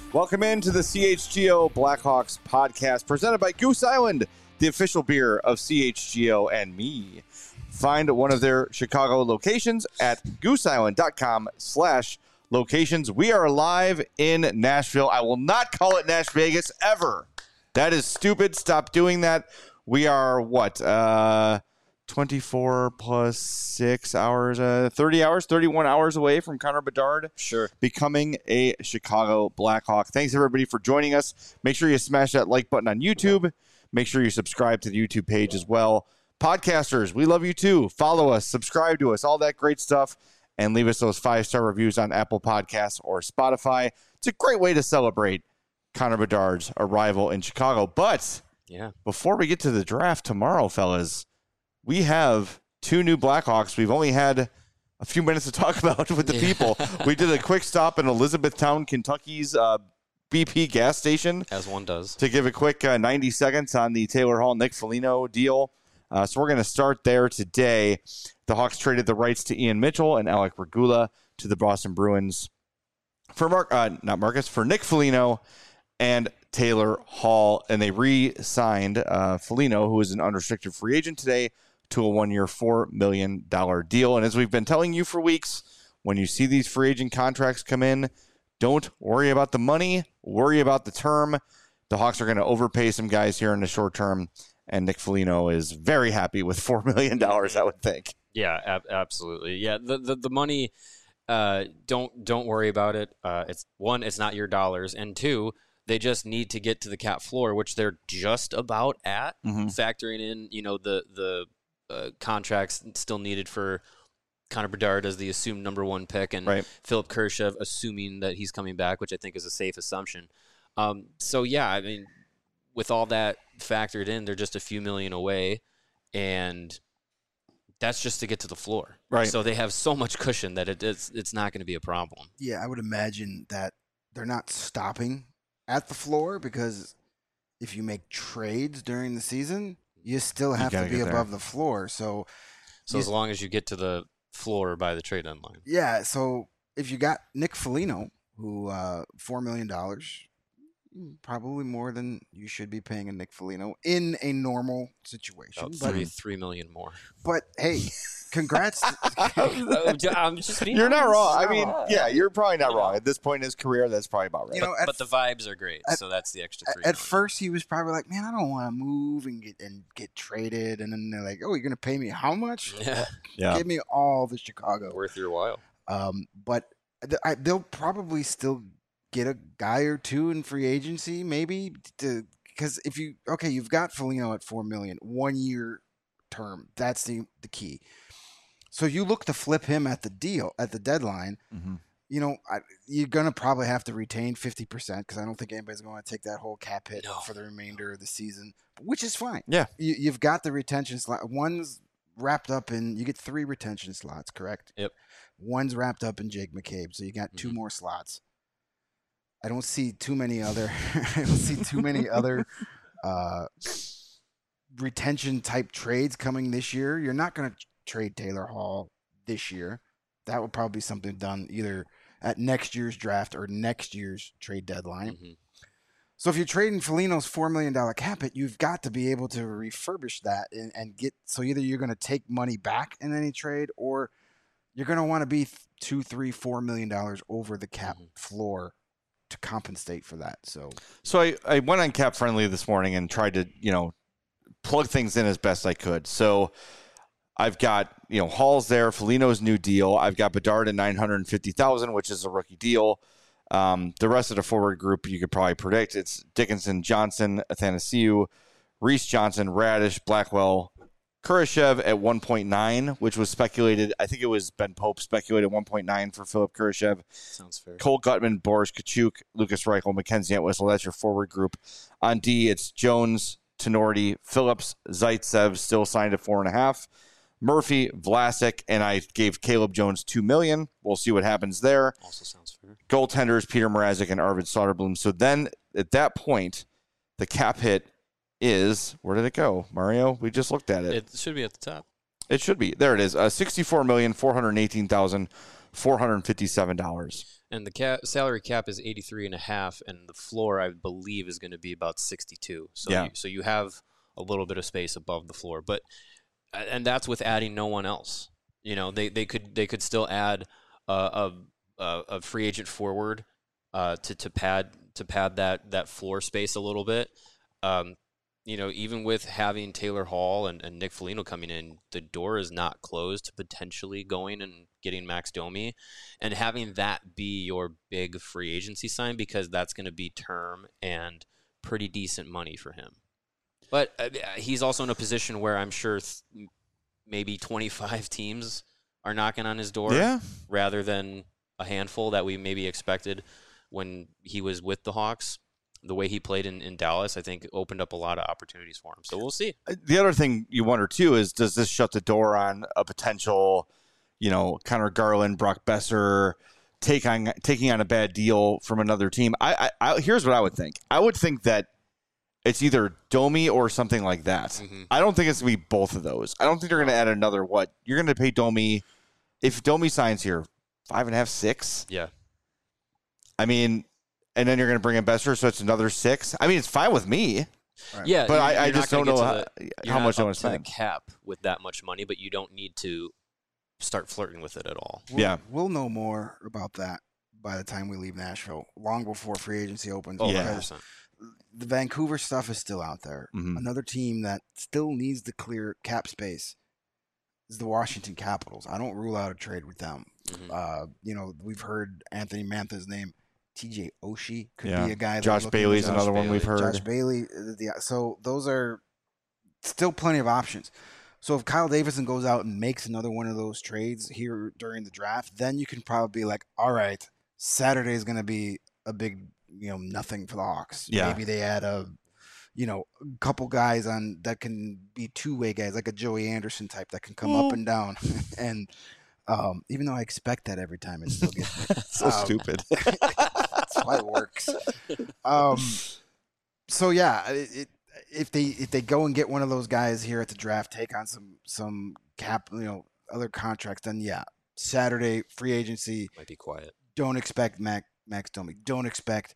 Welcome into the CHGO Blackhawks podcast presented by Goose Island, the official beer of CHGO and me. Find one of their Chicago locations at gooseisland.com/locations. We are live in Nashville. I will not call it Nash Vegas ever. That is stupid. Stop doing that. We are 24 plus 6 hours, 30 hours, 31 hours away from Connor Bedard becoming a Chicago Blackhawk. Thanks, everybody, for joining us. Make sure you smash that like button on YouTube. Make sure you subscribe to the YouTube page as well. Podcasters, we love you too. Follow us, subscribe to us, all that great stuff, and leave us those 5-star reviews on Apple Podcasts or Spotify. It's a great way to celebrate Connor Bedard's arrival in Chicago. But before we get to the draft tomorrow, fellas, we have 2 new Blackhawks. We've only had a few minutes to talk about with the people. We did a quick stop in Elizabethtown, Kentucky's BP gas station. As one does. To give a quick 90 seconds on the Taylor Hall, Nick Foligno deal. So we're going to start there today. The Hawks traded the rights to Ian Mitchell and Alec Regula to the Boston Bruins for Nick Foligno and Taylor Hall. And they re-signed Foligno, who is an unrestricted free agent today, to a 1-year, $4 million deal. And as we've been telling you for weeks, when you see these free agent contracts come in, don't worry about the money, worry about the term. The Hawks are going to overpay some guys here in the short term, and Nick Foligno is very happy with $4 million, I would think. Yeah, absolutely. Yeah, the money, don't worry about it. It's not your dollars, and 2, they just need to get to the cap floor, which they're just about at, factoring in, the contracts still needed for Connor Bedard as the assumed number 1 pick, and Philip Kurashev assuming that he's coming back, which I think is a safe assumption. With all that factored in, they're just a few million away, and that's just to get to the floor. Right. So they have so much cushion that it's not going to be a problem. Yeah, I would imagine that they're not stopping at the floor, because if you make trades during the season, you still have to be above the floor. So as long as you get to the floor by the trade deadline. Yeah, so if you got Nick Foligno, who $4 million, probably more than you should be paying a Nick Foligno in a normal situation. About $3 million more. But hey, congrats. I'm just being You're not wrong. I mean, you're probably not wrong. At this point in his career, that's probably about right. But the vibes are great, so that's the extra $3 million. At first, he was probably like, man, I don't want to move and get traded. And then they're like, oh, you're going to pay me how much? Yeah. Give me all the Chicago. Worth your while. But they'll probably still get a guy or 2 in free agency, maybe, because you've got Foligno at $4 million, 1-year term. That's the key. So you look to flip him at the deadline. You're gonna probably have to retain 50%, because I don't think anybody's going to take that whole cap hit for the remainder of the season, which is fine. Yeah, you've got the retention slot. One's wrapped up in. You get 3 retention slots, correct? Yep. One's wrapped up in Jake McCabe, so you got 2 more slots. I don't see too many other. Retention type trades coming this year. You're not going to trade Taylor Hall this year. That would probably be something done either at next year's draft or next year's trade deadline. So if you're trading Foligno's $4 million cap hit, you've got to be able to refurbish that and get. So either you're going to take money back in any trade, or you're going to want to be $2, $3, $4 million over the cap floor to compensate for that. So I went on Cap Friendly this morning and tried to, plug things in as best I could. So I've got, Hall's there, Foligno's new deal. I've got Bedard at $950,000, which is a rookie deal. The rest of the forward group you could probably predict. It's Dickinson, Johnson, Athanasiou, Reese Johnson, Radish, Blackwell, Kurashev at 1.9, which was speculated. I think it was Ben Pope speculated 1.9 for Philip Kurashev. Sounds fair. Cole Gutman, Boris Kachuk, Lucas Reichel, Mackenzie Entwistle. That's your forward group. On D, it's Jones, Tenorti, Phillips, Zaitsev, still signed at 4.5. Murphy, Vlasic, and I gave Caleb Jones $2 million. We'll see what happens there. Also sounds fair. Goaltenders, Peter Mrazek and Arvid Soderblom. So then at that point, the cap hit is, where did it go, Mario? We just looked at it. It should be at the top. It should be. There it is. $64,418,000 $457. And the salary cap is 83.5, and the floor, I believe, is going to be about 62. So you have a little bit of space above the floor, and that's with adding no one else. They could still add a free agent forward to pad that floor space a little bit. Even with having Taylor Hall and Nick Foligno coming in, the door is not closed to potentially going and getting Max Domi and having that be your big free agency sign, because that's going to be term and pretty decent money for him. But he's also in a position where I'm sure maybe 25 teams are knocking on his door rather than a handful that we maybe expected when he was with the Hawks. The way he played in Dallas, I think, opened up a lot of opportunities for him. So we'll see. The other thing you wonder, too, is does this shut the door on a potential, Connor Garland, Brock Besser taking on a bad deal from another team? Here's what I would think. I would think that it's either Domi or something like that. Mm-hmm. I don't think it's going to be both of those. I don't think they're going to add another what? You're going to pay Domi, if Domi signs here, 5.5, 6? Yeah. I mean, and then you're going to bring in Besser, so it's another 6. I mean, it's fine with me. Right. Yeah, but I just don't know how much I want to spend. The cap with that much money, but you don't need to start flirting with it at all. We'll know more about that by the time we leave Nashville, long before free agency opens. Oh, yeah. The Vancouver stuff is still out there. Mm-hmm. Another team that still needs to clear cap space is the Washington Capitals. I don't rule out a trade with them. Mm-hmm. We've heard Anthony Mantha's name. TJ Oshie could be a guy. Josh Bailey's another one we've heard. Josh Bailey. So those are still plenty of options. So if Kyle Davidson goes out and makes another one of those trades here during the draft, then you can probably be like, all right, Saturday is going to be a big, nothing for the Hawks. Yeah. Maybe they add a couple guys on that can be two-way guys, like a Joey Anderson type that can come up and down. And even though I expect that every time, it still gets me. So stupid. That's why it works. So yeah, if they go and get one of those guys here at the draft, take on some cap, other contracts, then Saturday free agency might be quiet. Don't expect Max Domi. Don't expect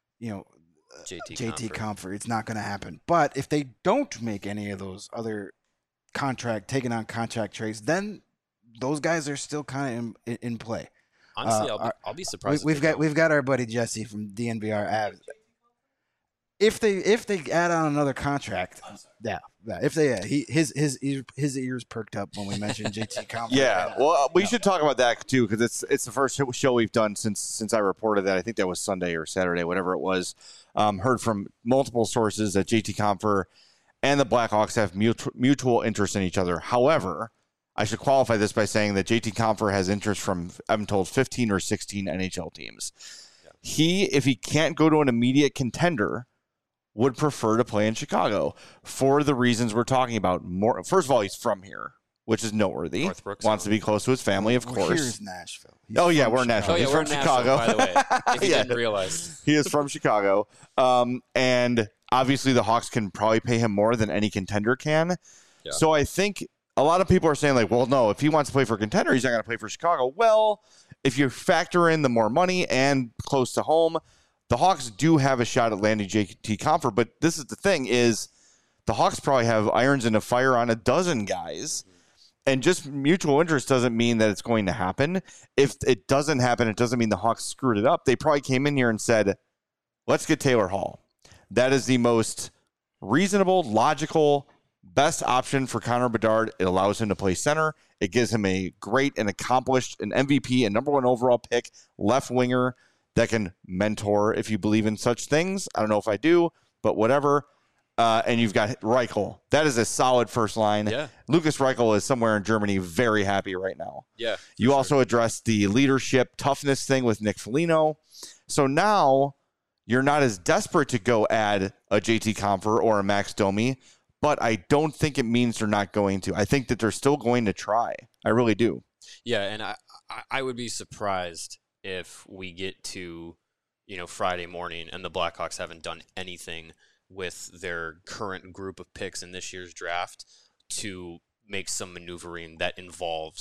JT Compher. It's not going to happen. But if they don't make any of those other taking on contract trades, then those guys are still kind of in play. Honestly, I'll be surprised. We've got our buddy Jesse from DNVR Avs. If they add on another contract, his ears perked up when we mentioned JT Compher. Yeah, well, we should talk about that too, because it's the first show we've done since I reported that. I think that was Sunday or Saturday, whatever it was. Heard from multiple sources that JT Compher and the Blackhawks have mutual interest in each other. However, I should qualify this by saying that JT Compher has interest from, I'm told, 15 or 16 NHL teams. Yeah. If he can't go to an immediate contender, would prefer to play in Chicago for the reasons we're talking about. First of all, he's from here, which is noteworthy. Northbrook, wants to be close to his family, of course. Here's Nashville. We're in Nashville. He's from Chicago, by the way. If you didn't realize. He is from Chicago. And obviously the Hawks can probably pay him more than any contender can. Yeah. So I think a lot of people are saying, like, well, no, if he wants to play for a contender, he's not going to play for Chicago. Well, if you factor in the more money and close to home, the Hawks do have a shot at landing JT Compher. But this is the thing is the Hawks probably have irons in the fire on a dozen guys. And just mutual interest doesn't mean that it's going to happen. If it doesn't happen, it doesn't mean the Hawks screwed it up. They probably came in here and said, let's get Taylor Hall. That is the most reasonable, logical, best option for Connor Bedard. It allows him to play center. It gives him a great and accomplished, an MVP, a number 1 overall pick, left winger that can mentor if you believe in such things. I don't know if I do, but whatever. And you've got Reichel. That is a solid first line. Yeah. Lucas Reichel is somewhere in Germany very happy right now. Yeah. You also addressed the leadership toughness thing with Nick Foligno. So now you're not as desperate to go add a JT Compher or a Max Domi, but I don't think it means they're not going to. I think that they're still going to try. I really do. Yeah, and I would be surprised if we get to, Friday morning and the Blackhawks haven't done anything with their current group of picks in this year's draft to make some maneuvering that involves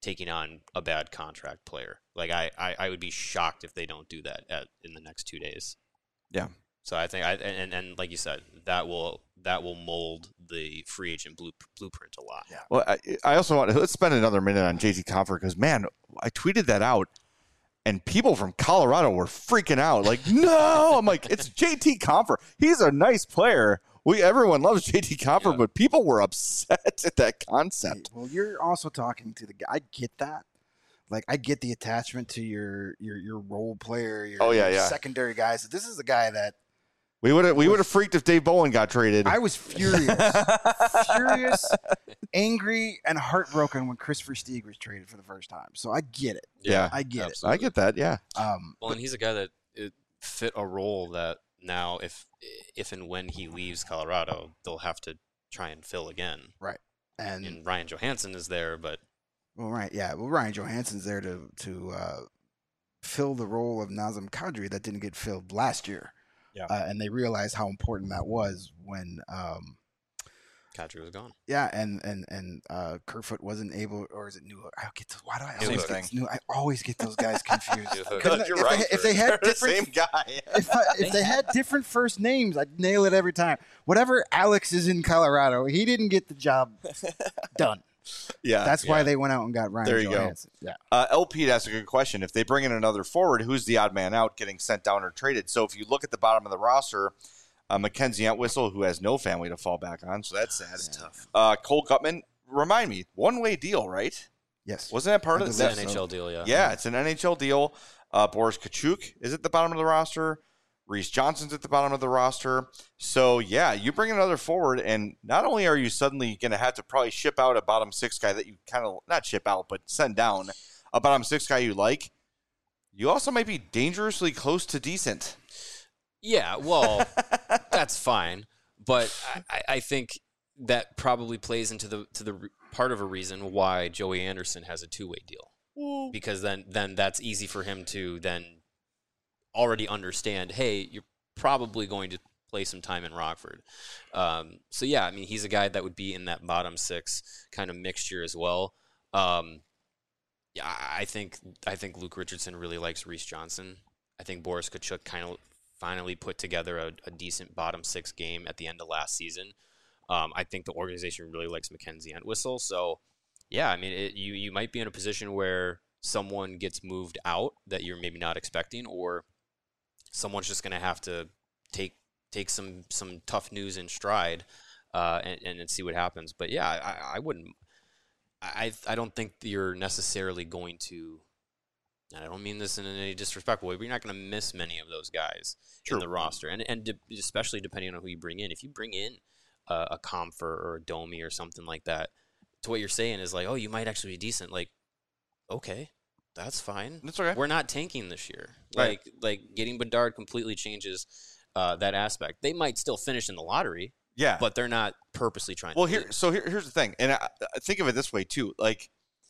taking on a bad contract player. Like I would be shocked if they don't do that in the next 2 days. Yeah. So I think and like you said, that will mold the free agent blueprint a lot. Yeah. Well, I also let's spend another minute on JT Compher because man, I tweeted that out. And people from Colorado were freaking out. Like, no! I'm like, it's JT Compher. He's a nice player. Everyone loves JT Compher, but people were upset at that concept. Well, you're also talking to the guy. I get that. Like, I get the attachment to your role player, your secondary guys. This is a guy that we would have freaked if Dave Bolin got traded. I was furious, angry, and heartbroken when Chris Versteeg was traded for the first time. So I get it. Yeah, I get absolutely. I get that. Yeah. Well, and he's a guy that fit a role that now, if and when he leaves Colorado, they'll have to try and fill again. Right. And Ryan Johansson is there, but Ryan Johansson's there to fill the role of Nazem Kadri that didn't get filled last year. Yeah. And they realized how important that was when Kadri was gone. Yeah, and Kerfoot wasn't able, or is it New? I get those. Why do I always get New? I always get those guys confused. If they had different, same guy. if they had different first names, I'd nail it every time. Whatever Alex is in Colorado, he didn't get the job done. Yeah, that's why they went out and got Ryan there you Johansson. Go. Yeah. LP asked a good question. If they bring in another forward, who's the odd man out getting sent down or traded? So if you look at the bottom of the roster, Mackenzie Entwistle, who has no family to fall back on, so that's sad. That's tough. Cole Gutman, remind me, one-way deal, right? Yes. Wasn't that part of the NHL deal? Yeah. Yeah, it's an NHL deal. Boris Kachuk is at the bottom of the roster. Reese Johnson's at the bottom of the roster. So, yeah, you bring another forward, and not only are you suddenly going to have to probably ship out a bottom six guy that you kind of, not ship out, but send down a bottom six guy you like, you also might be dangerously close to decent. Yeah, well, that's fine. But I think that probably plays into the part of a reason why Joey Anderson has a two-way deal. Because then that's easy for him to then already understand, hey, you're probably going to play some time in Rockford. So, yeah, I mean, he's a guy that would be in that bottom six kind of mixture as well. Yeah, I think Luke Richardson really likes Reese Johnson. I think Boris Kachuk kind of finally put together a decent bottom six game at the end of last season. I think the organization really likes Mackenzie Entwistle. So, yeah, I mean, you might be in a position where someone gets moved out that you're maybe not expecting, or someone's just going to have to take some tough news in stride and see what happens. But yeah, I wouldn't. I don't think you're necessarily going to. And I don't mean this in any disrespectful way, but you're not going to miss many of those guys in the roster, and especially depending on who you bring in. If you bring in a Compher or a Domi or something like that, to what you're saying is like, oh, you might actually be decent. Like, okay. That's fine. That's okay. We're not tanking this year. Right. Like getting Bedard completely changes that aspect. They might still finish in the lottery. Yeah, but they're not purposely trying. Well, to here's the thing, and I think of it this way too. Like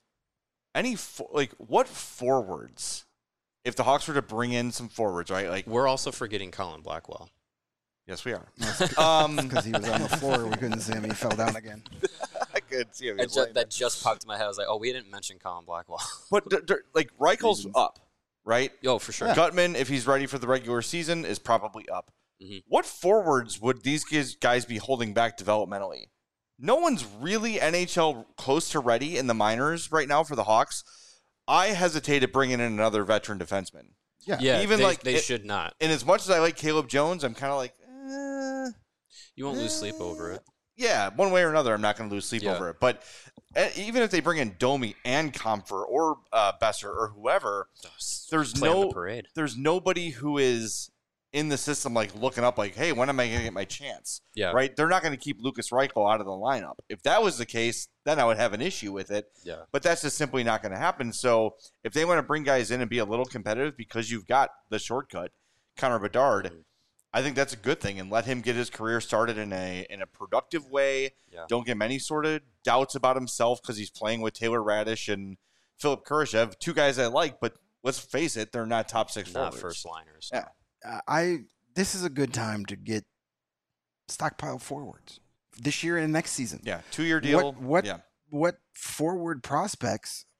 what forwards? If the Hawks were to bring in some forwards, right? Like we're also forgetting Colin Blackwell. Yes, we are. Because he was on the floor, we couldn't see him. He fell down again. I could see him. That just popped in my head. I was like, oh, we didn't mention Colin Blackwell. But like Reichel's up, right? Oh, for sure. Yeah. Gutman, if he's ready for the regular season, is probably up. Mm-hmm. What forwards would these guys be holding back developmentally? No one's really NHL close to ready in the minors right now for the Hawks. I hesitated bringing in another veteran defenseman. Yeah. Even they should not. And as much as I like Caleb Jones, I'm kind of like, you won't lose sleep over it. Yeah, one way or another, I'm not going to lose sleep over it. But even if they bring in Domi and Compher or Besser or whoever, there's nobody who is in the system like looking up like, hey, when am I going to get my chance? Yeah. Right? They're not going to keep Lucas Reichel out of the lineup. If that was the case, then I would have an issue with it. Yeah. But that's just simply not going to happen. So if they want to bring guys in and be a little competitive because you've got the shortcut, Connor Bedard, I think that's a good thing, and let him get his career started in a productive way. Yeah. Don't give him any sort of doubts about himself because he's playing with Taylor Radish and Philip Kurashev, two guys I like, but let's face it, they're not top six forwards. Not first liners. Yeah. This is a good time to get stockpile forwards this year and next season. Yeah, 2-year deal. What forward prospects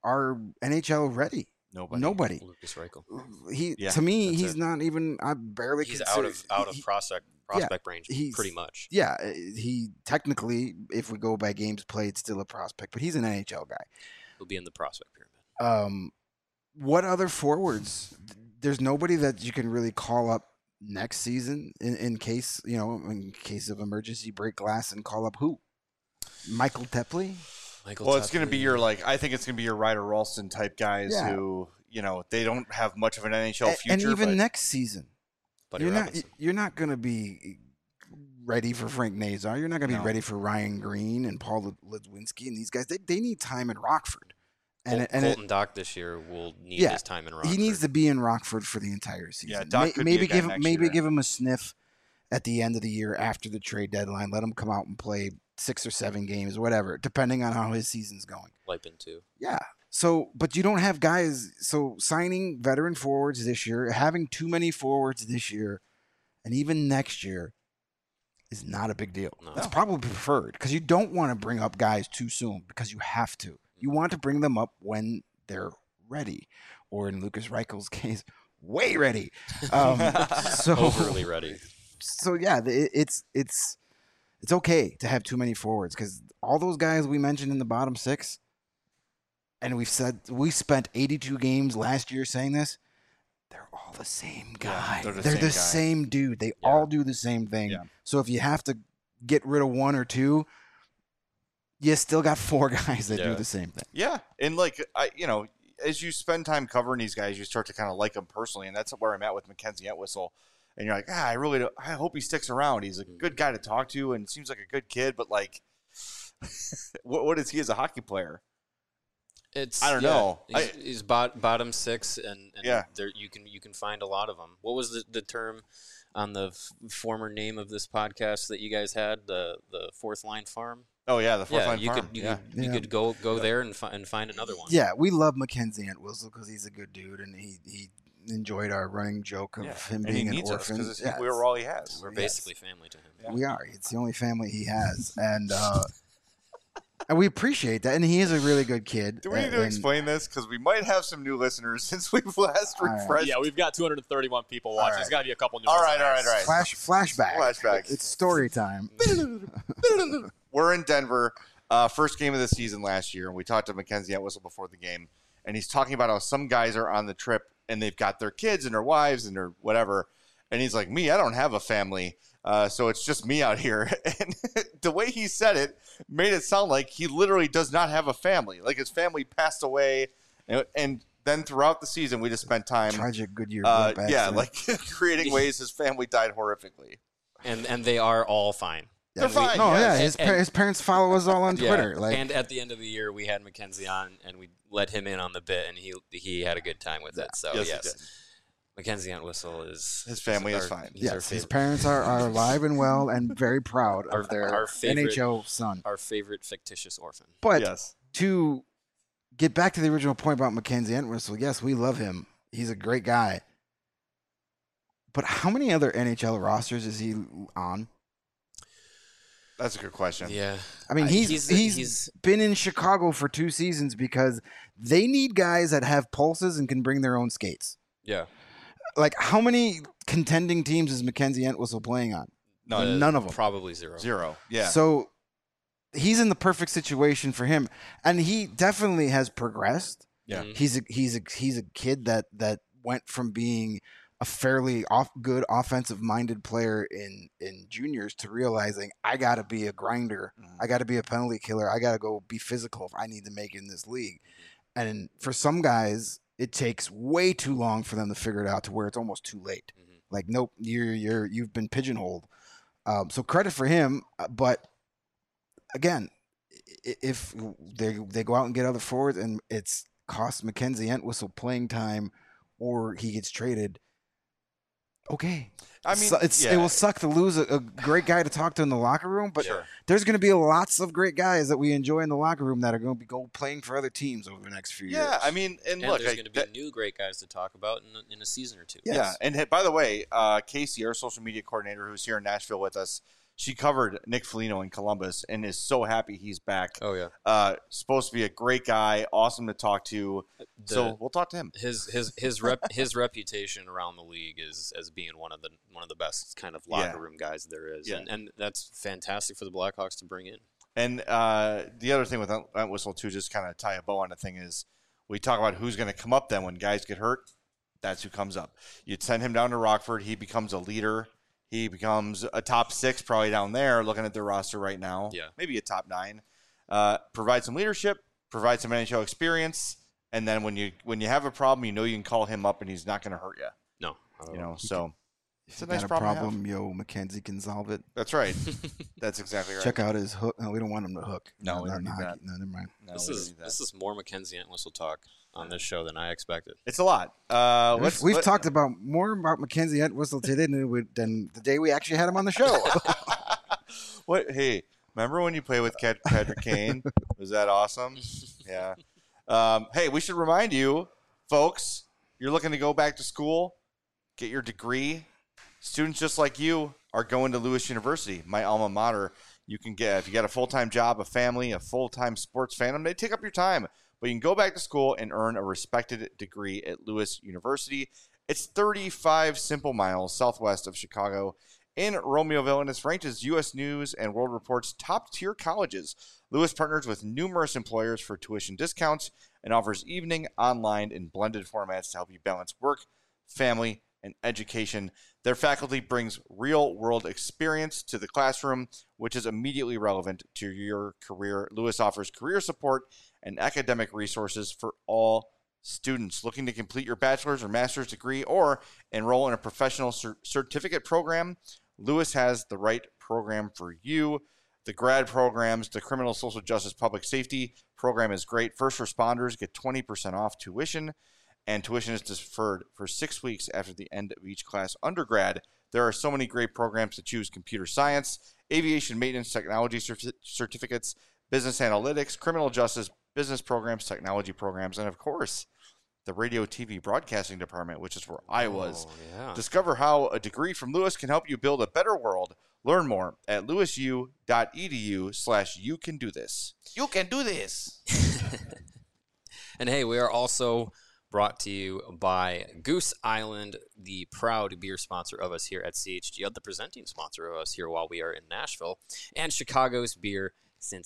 are NHL ready. Nobody. Lucas Reichel. To me, he's not even. I barely. He's out of prospect range, pretty much. Yeah, he technically, if we go by games played, still a prospect, but he's an NHL guy. He'll be in the prospect pyramid. What other forwards? There's nobody that you can really call up next season in case of emergency, break glass and call up who? Michael Tepley. It's going to be I think it's going to be your Ryder Ralston type guys who, they don't have much of an NHL future. And even next season, Buddy you're not going to be ready for Frank Nazar. You're not going to be ready for Ryan Green and Paul Lidwinski and these guys. They need time in Rockford. And Colton Dach this year will need his time in Rockford. He needs to be in Rockford for the entire season. Yeah, Dach could maybe give him a sniff at the end of the year after the trade deadline. Let him come out and play 6 or 7 games, whatever, depending on how his season's going. Lipin too. Yeah. So, but you don't have guys. So signing veteran forwards this year, having too many forwards this year, and even next year is not a big deal. No. It's probably preferred because you don't want to bring up guys too soon because you have to. You want to bring them up when they're ready, or in Lucas Reichel's case, way ready. So overly ready. So yeah, it's okay to have too many forwards because all those guys we mentioned in the bottom 6, and we spent 82 games last year saying this. They're all the same guy. Yeah, they're the same dude. They all do the same thing. Yeah. So if you have to get rid of 1 or 2. You still got 4 guys that do the same thing. Yeah, and as you spend time covering these guys, you start to kind of like them personally, and that's where I'm at with Mackenzie Entwistle. And you're like, I hope he sticks around. He's a good guy to talk to, and seems like a good kid. But what is he as a hockey player? I don't know. He's bottom 6, and there you can find a lot of them. What was the term on the former name of this podcast that you guys had? The fourth line farm. Oh yeah, the fourth line farm. You could go there and find another one. Yeah, we love Mackenzie Entwistle because he's a good dude, and he enjoyed our running joke of him being an orphan. Because we were all he has. We're basically family to him. Yeah. We are. It's the only family he has, and we appreciate that. And he is a really good kid. Do we need to explain this? Because we might have some new listeners since we've last refreshed. Right. Yeah, we've got 231 people watching. There's got to be a couple new. All right. Flashback. It's story time. We're in Denver. First game of the season last year, and we talked to Mackenzie Entwistle before the game, and he's talking about how some guys are on the trip and they've got their kids and their wives and their whatever, and he's like, me, I don't have a family, so it's just me out here. And the way he said it made it sound like he literally does not have a family, like his family passed away, and then throughout the season we just spent time tragic Goodyear creating ways his family died horrifically, and they are all fine. They're fine. No, his parents follow us all on Twitter. And at the end of the year, we had Mackenzie on, and we let him in on the bit, and he had a good time with it. So yes, Mackenzie Entwistle his family is fine. Yes, his parents are alive and well, and very proud of their NHL son, our favorite fictitious orphan. But to get back to the original point about Mackenzie Entwistle, yes, we love him. He's a great guy. But how many other NHL rosters is he on? That's a good question. Yeah. I mean, he's been in Chicago for 2 seasons because they need guys that have pulses and can bring their own skates. Yeah. Like, how many contending teams is Mackenzie Entwistle playing on? None of them. Probably zero. Yeah. So he's in the perfect situation for him, and he definitely has progressed. Yeah. He's a kid that went from being a fairly good offensive-minded player in juniors to realizing I got to be a grinder. I got to be a penalty killer. I got to go be physical if I need to make it in this league. And for some guys, it takes way too long for them to figure it out to where it's almost too late. Like, nope, you've been pigeonholed. So credit for him. But again, if they go out and get other forwards and it's cost Mackenzie Entwistle playing time or he gets traded, okay. I mean, it will suck to lose a great guy to talk to in the locker room, but there's going to be lots of great guys that we enjoy in the locker room that are going to be playing for other teams over the next few years. Yeah, I mean, and look, there's going to be new great guys to talk about in a season or two. Yes. Yeah, and by the way, Casey, our social media coordinator, who's here in Nashville with us, She covered Nick Foligno in Columbus and is so happy he's back. Oh yeah, supposed to be a great guy, awesome to talk to. So we'll talk to him. His reputation around the league is as being one of the best kind of locker room guys there is, and that's fantastic for the Blackhawks to bring in. And the other thing with Entwistle too, just kind of tie a bow on the thing is we talk about who's going to come up then when guys get hurt. That's who comes up. You'd send him down to Rockford. He becomes a leader. He becomes a top 6 probably down there looking at their roster right now. Yeah. Maybe a top 9. Provide some leadership, provide some NHL experience, and then when you have a problem, you can call him up and he's not going to hurt you. No. So it's a Got nice a problem. Mackenzie can solve it. That's right. That's exactly right. Check out his hook. No, we don't want him to hook. No, we don't need hockey. that. No, never mind. No, This is more Mackenzie Entwistle talk on this show than I expected. It's a lot. We've talked about more about Mackenzie Entwistle today than the day we actually had him on the show. What? Hey, remember when you played with Patrick Kane? Was that awesome? Yeah. Hey, we should remind you, folks, you're looking to go back to school, get your degree. Students just like you are going to Lewis University, my alma mater. You can get, if you got a full-time job, a family, a full-time sports fandom, they take up your time. But you can go back to school and earn a respected degree at Lewis University. It's 35 simple miles southwest of Chicago in Romeoville, and it's ranked as U.S. News and World Report's top-tier colleges. Lewis partners with numerous employers for tuition discounts and offers evening, online, and blended formats to help you balance work, family, and education. Their faculty brings real-world experience to the classroom, which is immediately relevant to your career. Lewis offers career support and academic resources for all students looking to complete your bachelor's or master's degree or enroll in a professional certificate program. Lewis has the right program for you. The grad programs, the criminal social justice public safety program is great. First responders get 20% off tuition, and tuition is deferred for 6 weeks after the end of each class. Undergrad, there are so many great programs to choose: computer science, aviation maintenance technology certificates, business analytics, criminal justice, business programs, technology programs, and of course, the radio, TV, broadcasting department, which is where I was. Yeah. Discover how a degree from Lewis can help you build a better world. Learn more at lewisu.edu/you can do this. You can do this. And hey, we are also brought to you by Goose Island, the proud beer sponsor of us here at CHGO, the presenting sponsor of us here while we are in Nashville, and Chicago's beer since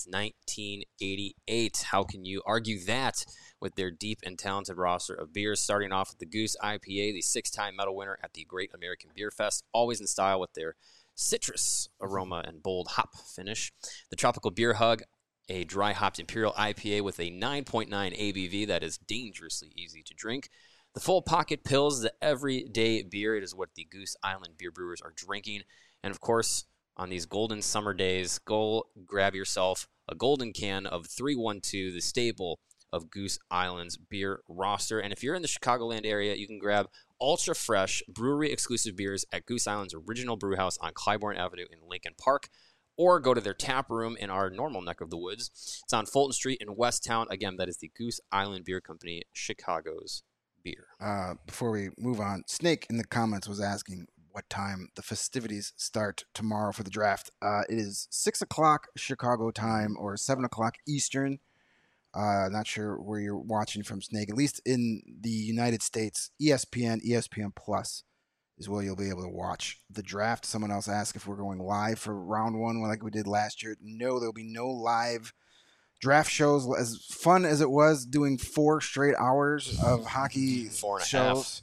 1988. How can you argue that with their deep and talented roster of beers, starting off with the Goose IPA, the 6-time medal winner at the Great American Beer Fest, always in style with their citrus aroma and bold hop finish. The Tropical Beer Hug, a dry-hopped Imperial IPA with a 9.9 ABV that is dangerously easy to drink. The Full Pocket Pills, the everyday beer. It is what the Goose Island beer brewers are drinking. And, of course, on these golden summer days, go grab yourself a golden can of 312, the staple of Goose Island's beer roster. And if you're in the Chicagoland area, you can grab ultra-fresh, brewery-exclusive beers at Goose Island's original brew house on Clybourne Avenue in Lincoln Park, or go to their tap room in our normal neck of the woods. It's on Fulton Street in Westtown. Again, that is the Goose Island Beer Company, Chicago's beer. Before we move on, Snake in the comments was asking what time the festivities start tomorrow for the draft. It is 6 o'clock Chicago time or 7 o'clock Eastern. Not sure where you're watching from, Snake. At least in the United States, ESPN Plus is where you'll be able to watch the draft. Someone else asked if we're going live for round one like we did last year. No, there'll be no live draft shows. As fun as it was doing 4 straight hours of hockey 4.5 shows,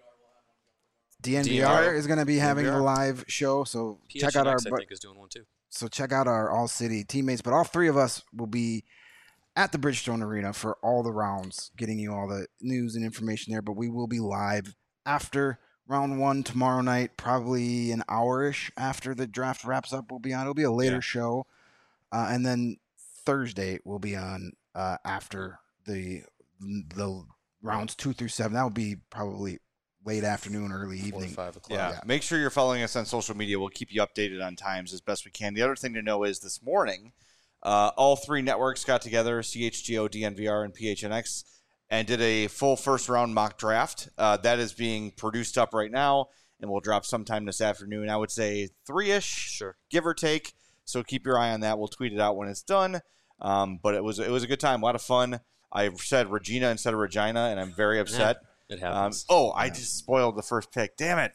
DNVR is going to be having a live show. So PHNX, check out our. I think, is doing one too. So check out our All City teammates. But all 3 of us will be at the Bridgestone Arena for all the rounds, getting you all the news and information there. But we will be live after round 1 tomorrow night, probably an hour-ish after the draft wraps up. We'll be on. It'll be a later show. And then Thursday we'll be on after the rounds 2 through 7. That will be probably late afternoon, early evening. 4 or 5 o'clock. Yeah. Make sure you're following us on social media. We'll keep you updated on times as best we can. The other thing to know is this morning, all 3 networks got together, CHGO, DNVR, and PHNX, and did a full first-round mock draft. That is being produced up right now and will drop sometime this afternoon. I would say 3-ish, Sure. give or take. So keep your eye on that. We'll tweet it out when it's done. But it was a good time, a lot of fun. I said Regina instead of Regina, and I'm very upset. Yeah, it happens. I just spoiled the first pick. Damn it.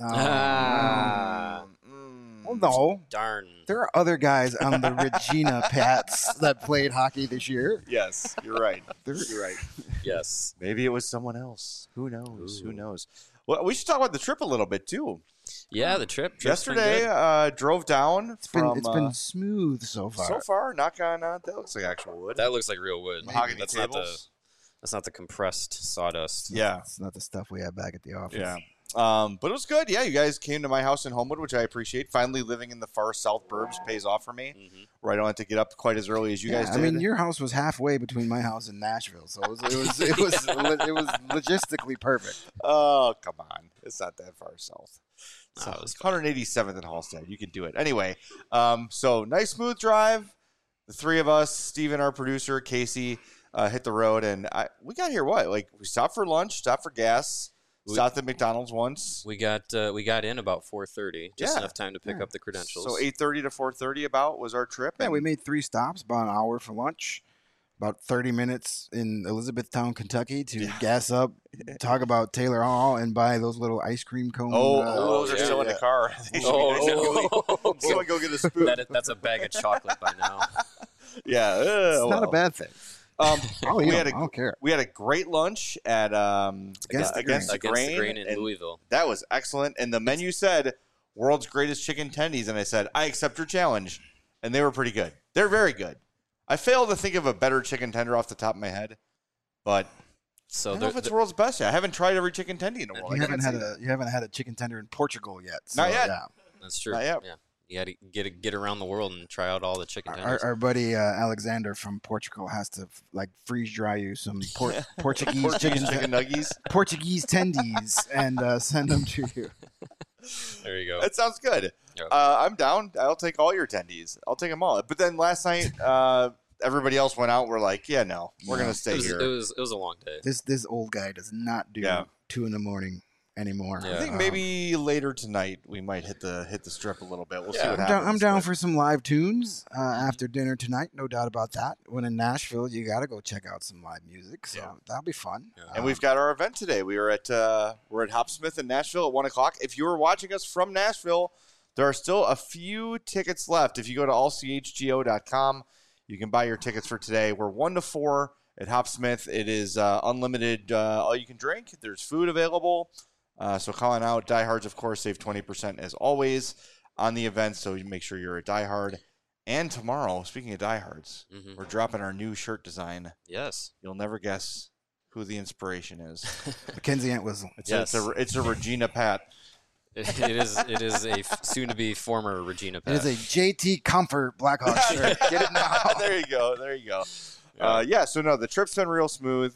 Well, no. Darn. There are other guys on the Regina Pats that played hockey this year. Yes, you're right. You're right. Yes. Maybe it was someone else. Who knows? Ooh. Who knows? Well, we should talk about the trip a little bit, too. Yeah, the trip. Yesterday, drove down It's from... been smooth so far. So far, knock on... that looks like actual wood. That looks like real wood. Mahogany That's tables. not the compressed sawdust. Yeah. It's not the stuff we have back at the office. Yeah. But it was good. Yeah, you guys came to my house in Homewood, which I appreciate. Finally living in the far south burbs pays off for me, where I don't have to get up quite as early as you guys did. I mean, your house was halfway between my house and Nashville, so it was logistically perfect. Oh, come on. It's not that far south. No, it was 187th in Halstead. You could do it. Anyway, so nice smooth drive. The three of us, Steven, our producer, Casey, hit the road, and we got here, we stopped for lunch, stopped for gas, stopped at McDonald's once. We got in about 4:30, just enough time to pick up the credentials. So 8:30 to 4:30 about was our trip. Yeah, we made 3 stops, about an hour for lunch, about 30 minutes in Elizabethtown, Kentucky to gas up, talk about Taylor Hall, and buy those little ice cream cones. Those are still in the car. Someone go get a spoon. That's a bag of chocolate by now. Yeah. It's not a bad thing. I don't care. We had a great lunch at Against the Grain in Louisville. That was excellent. And the menu said, world's greatest chicken tendies. And I said, I accept your challenge. And they were pretty good. They're very good. I fail to think of a better chicken tender off the top of my head. But I don't know if it's the world's best yet. I haven't tried every chicken tendy in the world. You haven't had a chicken tender in Portugal yet. So, Not yet. Yeah. That's true. Not yet. Yeah. You got to get around the world and try out all the chicken tenders. Our buddy Alexander from Portugal has to freeze dry you some Portuguese chicken nuggies, Portuguese tendies, and send them to you. There you go. That sounds good. Yep. I'm down. I'll take all your tendies. I'll take them all. But then last night, everybody else went out. We're like, we're gonna stay here. It was a long day. This old guy does not do 2 a.m. anymore. Yeah. I think maybe later tonight we might hit the strip a little bit. We'll see what happens. I'm down for some live tunes after dinner tonight. No doubt about that. When in Nashville, you got to go check out some live music. So that'll be fun. Yeah. And we've got our event today. We're at Hopsmith in Nashville at 1:00. If you were watching us from Nashville, there are still a few tickets left. If you go to allchgo.com, you can buy your tickets for today. We're 1 to 4 at Hopsmith. It is unlimited, all you can drink. There's food available. So calling out diehards, of course, save 20% as always on the event. So you make sure you're a diehard. And tomorrow, speaking of diehards, we're dropping our new shirt design. Yes. You'll never guess who the inspiration is. Mackenzie Entwistle. It's a Regina Pat. It is a soon-to-be former Regina Pat. It is a JT Comfort Blackhawk shirt. Get it now. There you go. So the trip's been real smooth.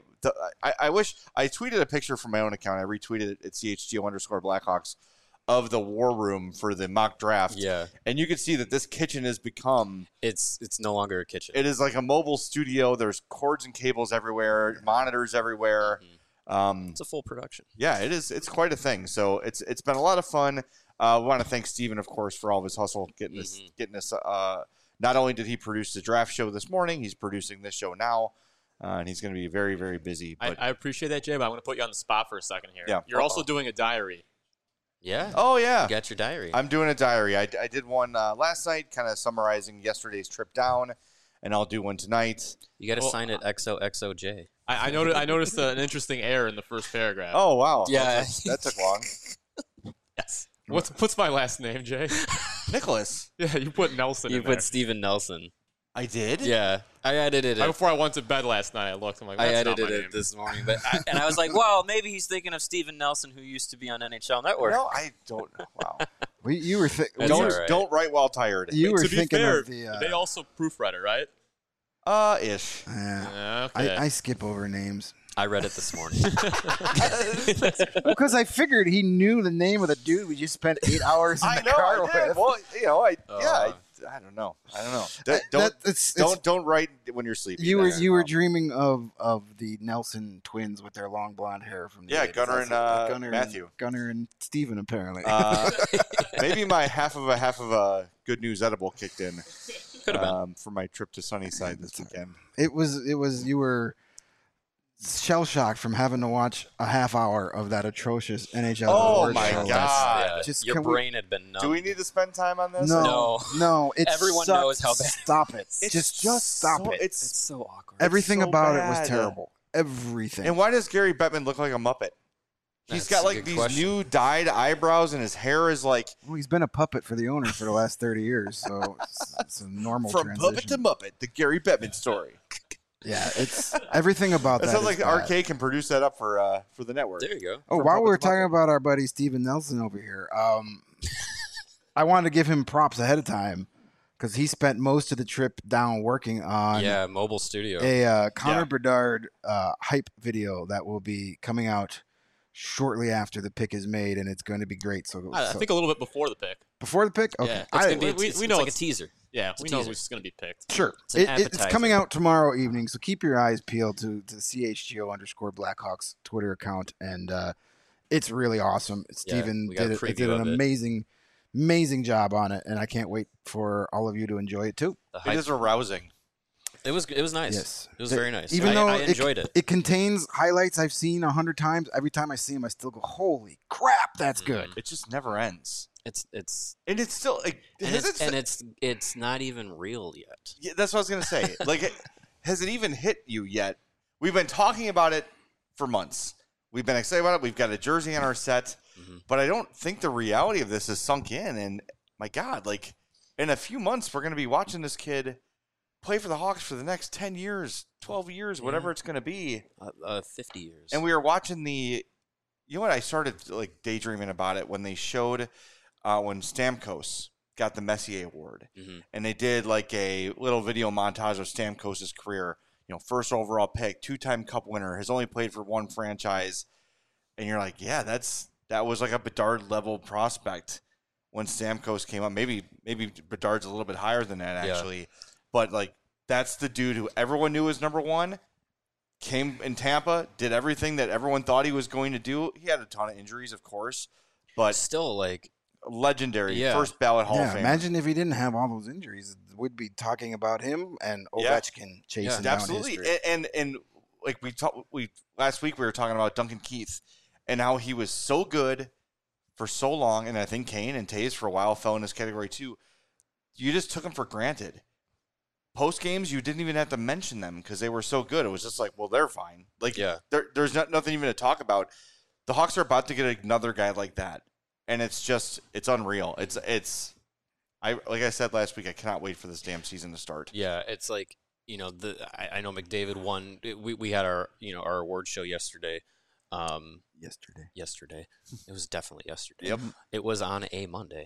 I wish I tweeted a picture from my own account. I retweeted it at CHGO_Blackhawks of the war room for the mock draft. Yeah. And you can see that this kitchen has become it's no longer a kitchen. It is like a mobile studio. There's cords and cables everywhere, monitors everywhere. It's a full production. Yeah, it is. It's quite a thing. So it's been a lot of fun. We want to thank Steven, of course, for all of his hustle getting this. Not only did he produce the draft show this morning, he's producing this show now, and he's going to be very, very busy. But I appreciate that, Jay, but I'm going to put you on the spot for a second here. Yeah. You're also doing a diary. Yeah. Oh, yeah. You got your diary. I'm doing a diary. I did one last night, kind of summarizing yesterday's trip down, and I'll do one tonight. You got to sign it XOXOJ. I noticed an interesting error in the first paragraph. Oh, wow. Yeah. That took long. Yes. What's my last name, Jay? Nicholas. Yeah, you put Nelson in You there. put Steven Nelson. I did? Yeah. I edited it. Before I went to bed last night, I looked. I'm like, that's I edited not my it name. this morning. And I was like, well, maybe he's thinking of Steven Nelson, who used to be on NHL Network. No, I don't. Wow. You were That's all right. Don't write while tired. You were To be thinking fair, of the. they also proofread it, right? Ish. Okay. I skip over names. I read it this morning. Because I figured he knew the name of the dude we just spent 8 hours in the car I did. with. Well, I don't know. Don't write when you're sleeping. You were dreaming of the Nelson twins with their long blonde hair from the 80s. Gunnar and Matthew. Gunnar and Steven, apparently. Maybe my half of a good news edible kicked in for my trip to Sunnyside this weekend. It was you were shell shocked from having to watch a half hour of that atrocious NHL. Oh my show. God! Your brain had been numb. Do we need to spend time on this? No. Everyone knows how bad. Stop it. Just stop it. It's so awkward. Everything so about bad. it was terrible. Everything. And why does Gary Bettman look like a Muppet? He's got like these new dyed eyebrows, and his hair is like. Well, he's been a puppet for the owner for the last 30 years, so it's a normal from transition. puppet to Muppet, the Gary Bettman story. Yeah, it's everything about that. It sounds like bad. Arcade can produce that up for the network. There you go. Oh, while we were talking about our buddy Steven Nelson over here, I wanted to give him props ahead of time because he spent most of the trip down working on mobile studio, a Connor Bedard hype video that will be coming out shortly after the pick is made, and it's going to be great. So I think a little bit before the pick. Before the pick, okay. Yeah. We know it's like a teaser. Yeah, we know who's going to be picked. Sure. It's coming out tomorrow evening, so keep your eyes peeled to the CHGO_Blackhawks Twitter account, and it's really awesome. Steven did an amazing job on it, and I can't wait for all of you to enjoy it too. It is arousing. It was nice. Yes. It was very nice. Even though I enjoyed it. It contains highlights I've seen 100 times. Every time I see them, I still go, "Holy crap, that's good!" It just never ends. It's still like, it's not even real yet. Yeah, that's what I was gonna say. Like, has it even hit you yet? We've been talking about it for months. We've been excited about it. We've got a jersey on our set, but I don't think the reality of this is sunk in. And my God, like in a few months, we're gonna be watching this kid play for the Hawks for the next 10 years, 12 years, whatever it's gonna be. 50 years. And we were watching you know what? I started like daydreaming about it when they showed. When Stamkos got the Messier Award, and they did like a little video montage of Stamkos' career. You know, first overall pick, 2-time Cup winner, has only played for one franchise, and you're like, yeah, that was like a Bedard level prospect when Stamkos came up. Maybe Bedard's a little bit higher than that actually, but like that's the dude who everyone knew was number one. Came in Tampa, did everything that everyone thought he was going to do. He had a ton of injuries, of course, but still like. Legendary, first ballot Hall of Famer. Imagine if he didn't have all those injuries. We'd be talking about him and Ovechkin chasing down absolutely. history. And like we last week we were talking about Duncan Keith and how he was so good for so long, and I think Kane and Taves for a while fell in this category too. You just took them for granted. Post games, you didn't even have to mention them because they were so good. It was just like, well, they're fine. Like, there's nothing even to talk about. The Hawks are about to get another guy like that. And it's unreal. Like I said last week, I cannot wait for this damn season to start. Yeah, it's like, you know, I know McDavid won. We had our award show yesterday. Yesterday. It was definitely yesterday. Yep. It was on a Monday.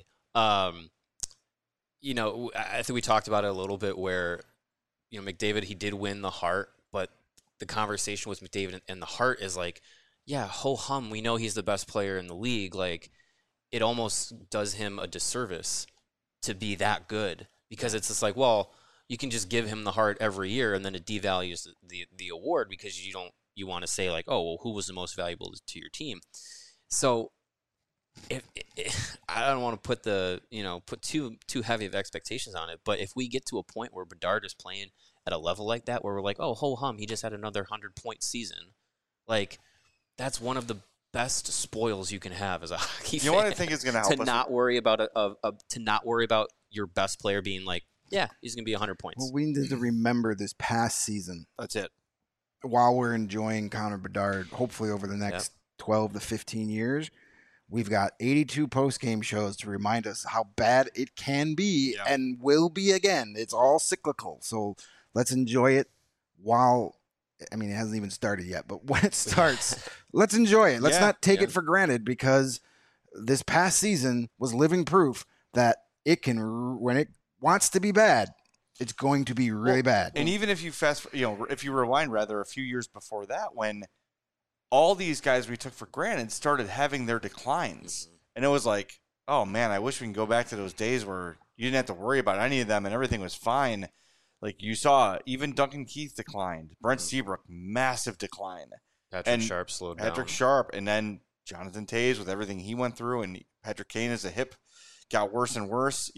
You know, I think we talked about it a little bit where, you know, McDavid, he did win the Hart, but the conversation with McDavid and the Hart is like, yeah, ho hum, we know he's the best player in the league. Like, it almost does him a disservice to be that good because it's just like, well, you can just give him the Hart every year and then it devalues the award because you want to say like, oh, well, who was the most valuable to your team? So if I don't want to put too heavy of expectations on it, but if we get to a point where Bedard is playing at a level like that where we're like, oh, ho hum, he just had another 100-point season, like that's one of the best spoils you can have as a hockey fan. You know what I think is going to help us? To not worry about your best player being like, yeah, he's going to be 100 points. Well, we need to remember this past season. That's it. While we're enjoying Connor Bedard, hopefully over the next 12 to 15 years, we've got 82 post-game shows to remind us how bad it can be and will be again. It's all cyclical. So let's enjoy it while... I mean, it hasn't even started yet, but when it starts, let's enjoy it. Let's not take it for granted because this past season was living proof that it can, when it wants to be bad, it's going to be really bad. And even if you if you rewind rather a few years before that, when all these guys we took for granted started having their declines, and it was like, oh man, I wish we can go back to those days where you didn't have to worry about any of them, and everything was fine. Like you saw, even Duncan Keith declined. Brent Seabrook, massive decline. Patrick Sharp slowed down. Patrick Sharp, and then Jonathan Toews with everything he went through, and Patrick Kane as a hip got worse and worse.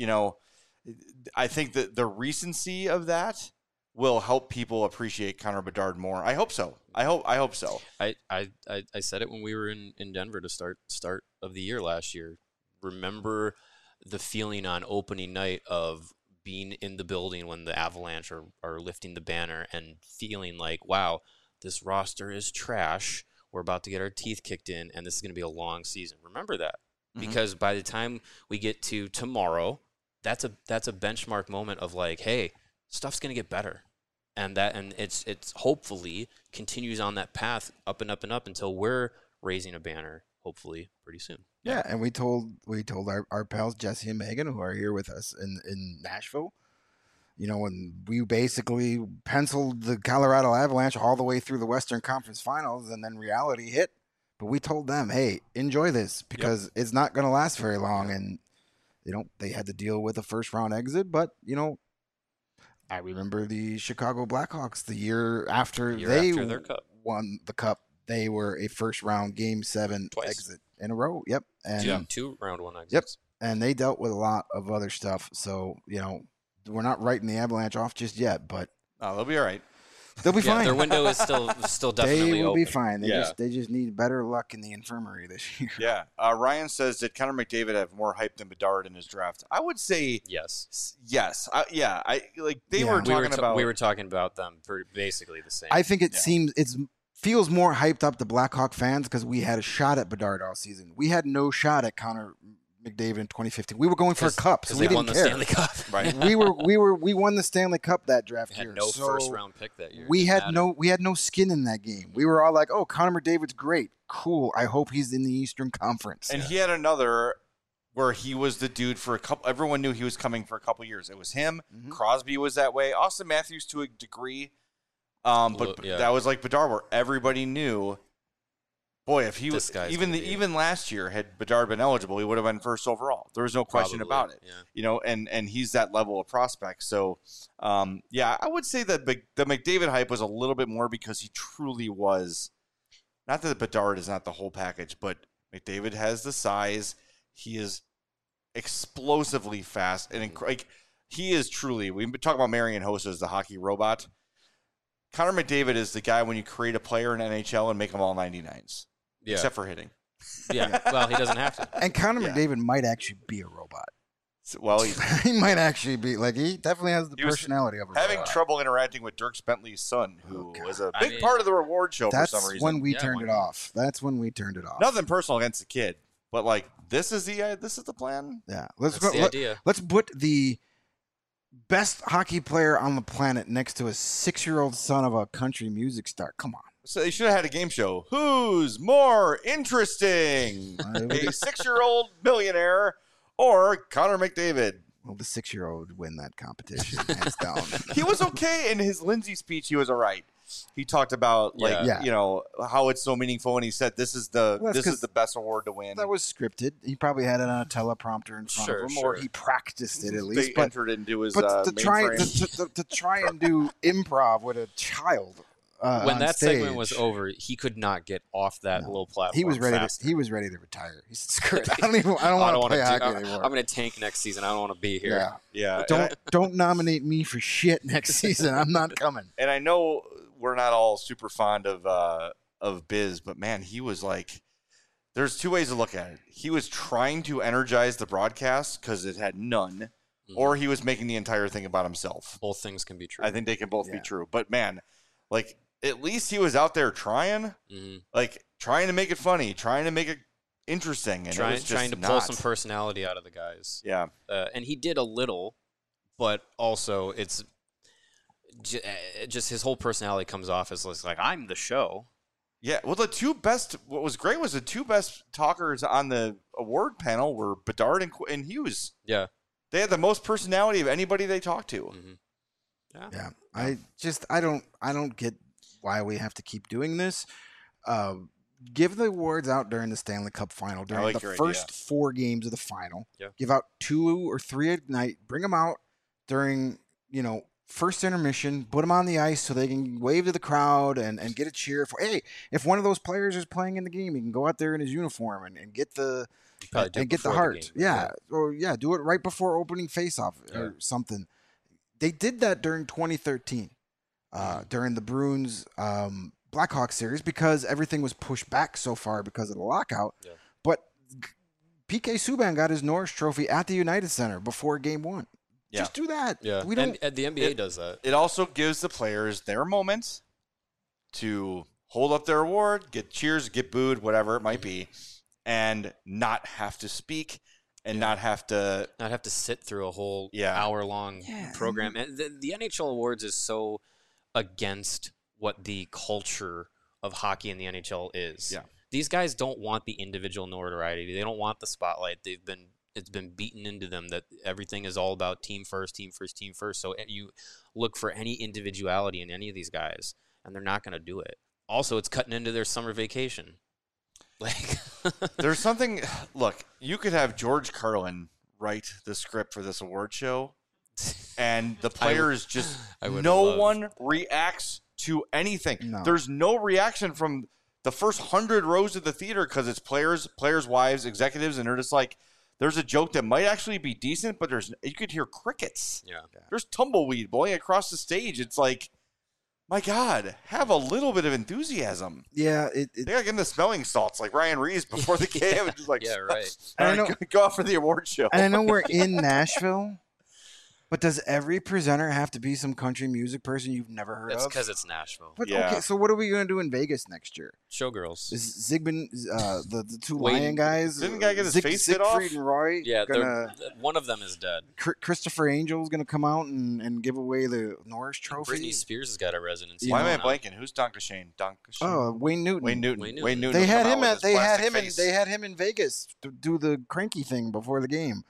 I think that the recency of that will help people appreciate Connor Bedard more. I hope so. I hope so. I said it when we were in Denver to start of the year last year. Remember the feeling on opening night of being in the building when the Avalanche are lifting the banner and feeling like, wow, this roster is trash. We're about to get our teeth kicked in, and this is going to be a long season. Remember that. Because by the time we get to tomorrow, that's a benchmark moment of like, hey, stuff's going to get better. And it's hopefully continues on that path up and up and up until we're raising a banner, hopefully pretty soon. Yeah, and we told our pals Jesse and Megan, who are here with us in Nashville, when we basically penciled the Colorado Avalanche all the way through the Western Conference Finals, and then reality hit. But we told them, hey, enjoy this because it's not going to last very long. And, they had to deal with a first-round exit. But, I remember the Chicago Blackhawks the year after their cup. Won the cup. They were a first-round Game 7 exit in a row. Yep. And 2 round 1 exits. Yep. And they dealt with a lot of other stuff. So, we're not writing the Avalanche off just yet, but they'll be all right. They'll be fine. Their window is still definitely They will open. be fine. They just need better luck in the infirmary this year. Yeah. Ryan says, did Connor McDavid have more hype than Bedard in his draft? I would say yes. Yes. We were talking about them for basically the same. I think it feels more hyped up to Blackhawk fans because we had a shot at Bedard all season. We had no shot at Connor McDavid in 2015. We were going for a cup, so we didn't care. Stanley Cup. Right. we won the Stanley Cup that draft year. Had no first round pick that year. We had no skin in that game. We were all like, "Oh, Connor McDavid's great, cool. I hope he's in the Eastern Conference." And he had another where he was the dude for a couple. Everyone knew he was coming for a couple years. It was him. Mm-hmm. Crosby was that way. Austin Matthews to a degree, that was like Bedard, where everybody knew. Boy, if he was even last year had Bedard been eligible, he would have been first overall. There was no question about it. Yeah. And he's that level of prospect. So, I would say that the McDavid hype was a little bit more because he truly was. Not that Bedard is not the whole package, but McDavid has the size. He is explosively fast, and he is truly. We talk about Marian Hossa as the hockey robot. Connor McDavid is the guy when you create a player in NHL and make them all 99s. Yeah. Except for hitting. Yeah, well, he doesn't have to. And Connor McDavid might actually be a robot. Well, he might actually be he definitely has the personality of a robot. Having trouble interacting with Dirk Bentley's son, who was a big part of the reward show for some reason. That's when we turned it off. That's when we turned it off. Nothing personal against the kid, but this is the plan. Yeah, idea. Let's put the best hockey player on the planet next to a 6-year-old son of a country music star. Come on. So they should have had a game show. Who's more interesting? A 6-year-old millionaire or Connor McDavid? Well, the 6-year-old would win that competition, hands down. He was okay in his Lindsay speech. He was all right. He talked about how it's so meaningful, and he said this is the best award to win. That was scripted. He probably had it on a teleprompter in front of him, or he practiced it at least. They entered into his to try and do improv with a child. When that stage, segment was over, he could not get off that little platform. He was ready. He was ready to retire. He said, "Screw it. I don't want to play hockey anymore. I'm going to tank next season. I don't want to be here." Yeah. Don't nominate me for shit next season. I'm not coming. And I know we're not all super fond of Biz, but man, he was there's two ways to look at it. He was trying to energize the broadcast because it had none, or he was making the entire thing about himself. Both things can be true. I think they can both be true. But man, at least he was out there trying, trying to make it funny, trying to make it interesting, and trying to pull some personality out of the guys. Yeah, and he did a little, but also it's just his whole personality comes off as I'm the show. Yeah, well, what was great was the two best talkers on the award panel were Bedard and Hughes. Yeah, they had the most personality of anybody they talked to. Mm-hmm. Yeah. I don't get why we have to keep doing this. give the awards out during the Stanley Cup final, during the first 4 games of the final. Yeah. Give out 2 or 3 a night. Bring them out during, first intermission. Put them on the ice so they can wave to the crowd and get a cheer. Hey, if one of those players is playing in the game, he can go out there in his uniform and get the heart. Do it right before opening faceoff or something. They did that during 2013, during the Bruins Blackhawks series, because everything was pushed back so far because of the lockout. Yeah. But PK Subban got his Norris Trophy at the United Center before Game 1. Yeah. Just do that. Yeah. And the NBA does that. It also gives the players their moments to hold up their award, get cheers, get booed, whatever it might be, and not have to speak and not have to sit through a whole hour-long program. And the NHL awards is so against what the culture of hockey in the NHL is. Yeah. These guys don't want the individual notoriety. They don't want the spotlight. It's been beaten into them that everything is all about team first, team first, team first. So you look for any individuality in any of these guys, and they're not going to do it. Also, it's cutting into their summer vacation. There's something. Look, you could have George Carlin write the script for this award show, and the players one reacts to anything. No. There's no reaction from the first 100 rows of the theater because it's players, wives, executives, and they're just like, there's a joke that might actually be decent, but you could hear crickets. Yeah. There's tumbleweed blowing across the stage. It's like, my God, have a little bit of enthusiasm. Yeah. They got to get in the smelling salts like Ryan Reeves before the game. And just like, yeah, right. Go out for the award show. And I know we're in Nashville. But does every presenter have to be some country music person you've never heard of? It's because it's Nashville. But, okay, so what are we going to do in Vegas next year? Showgirls. Is Zygmunt, the 2 Lion guys? Didn't the guy get his face hit off? Siegfried and Roy? Yeah, one of them is dead. Christopher Angel's going to come out and give away the Norris Trophy. Britney Spears has got a residency. Why am I blanking? Who's Donkashane? Oh, Wayne Newton. Wayne Newton. They had him in Vegas to do the cranky thing before the game.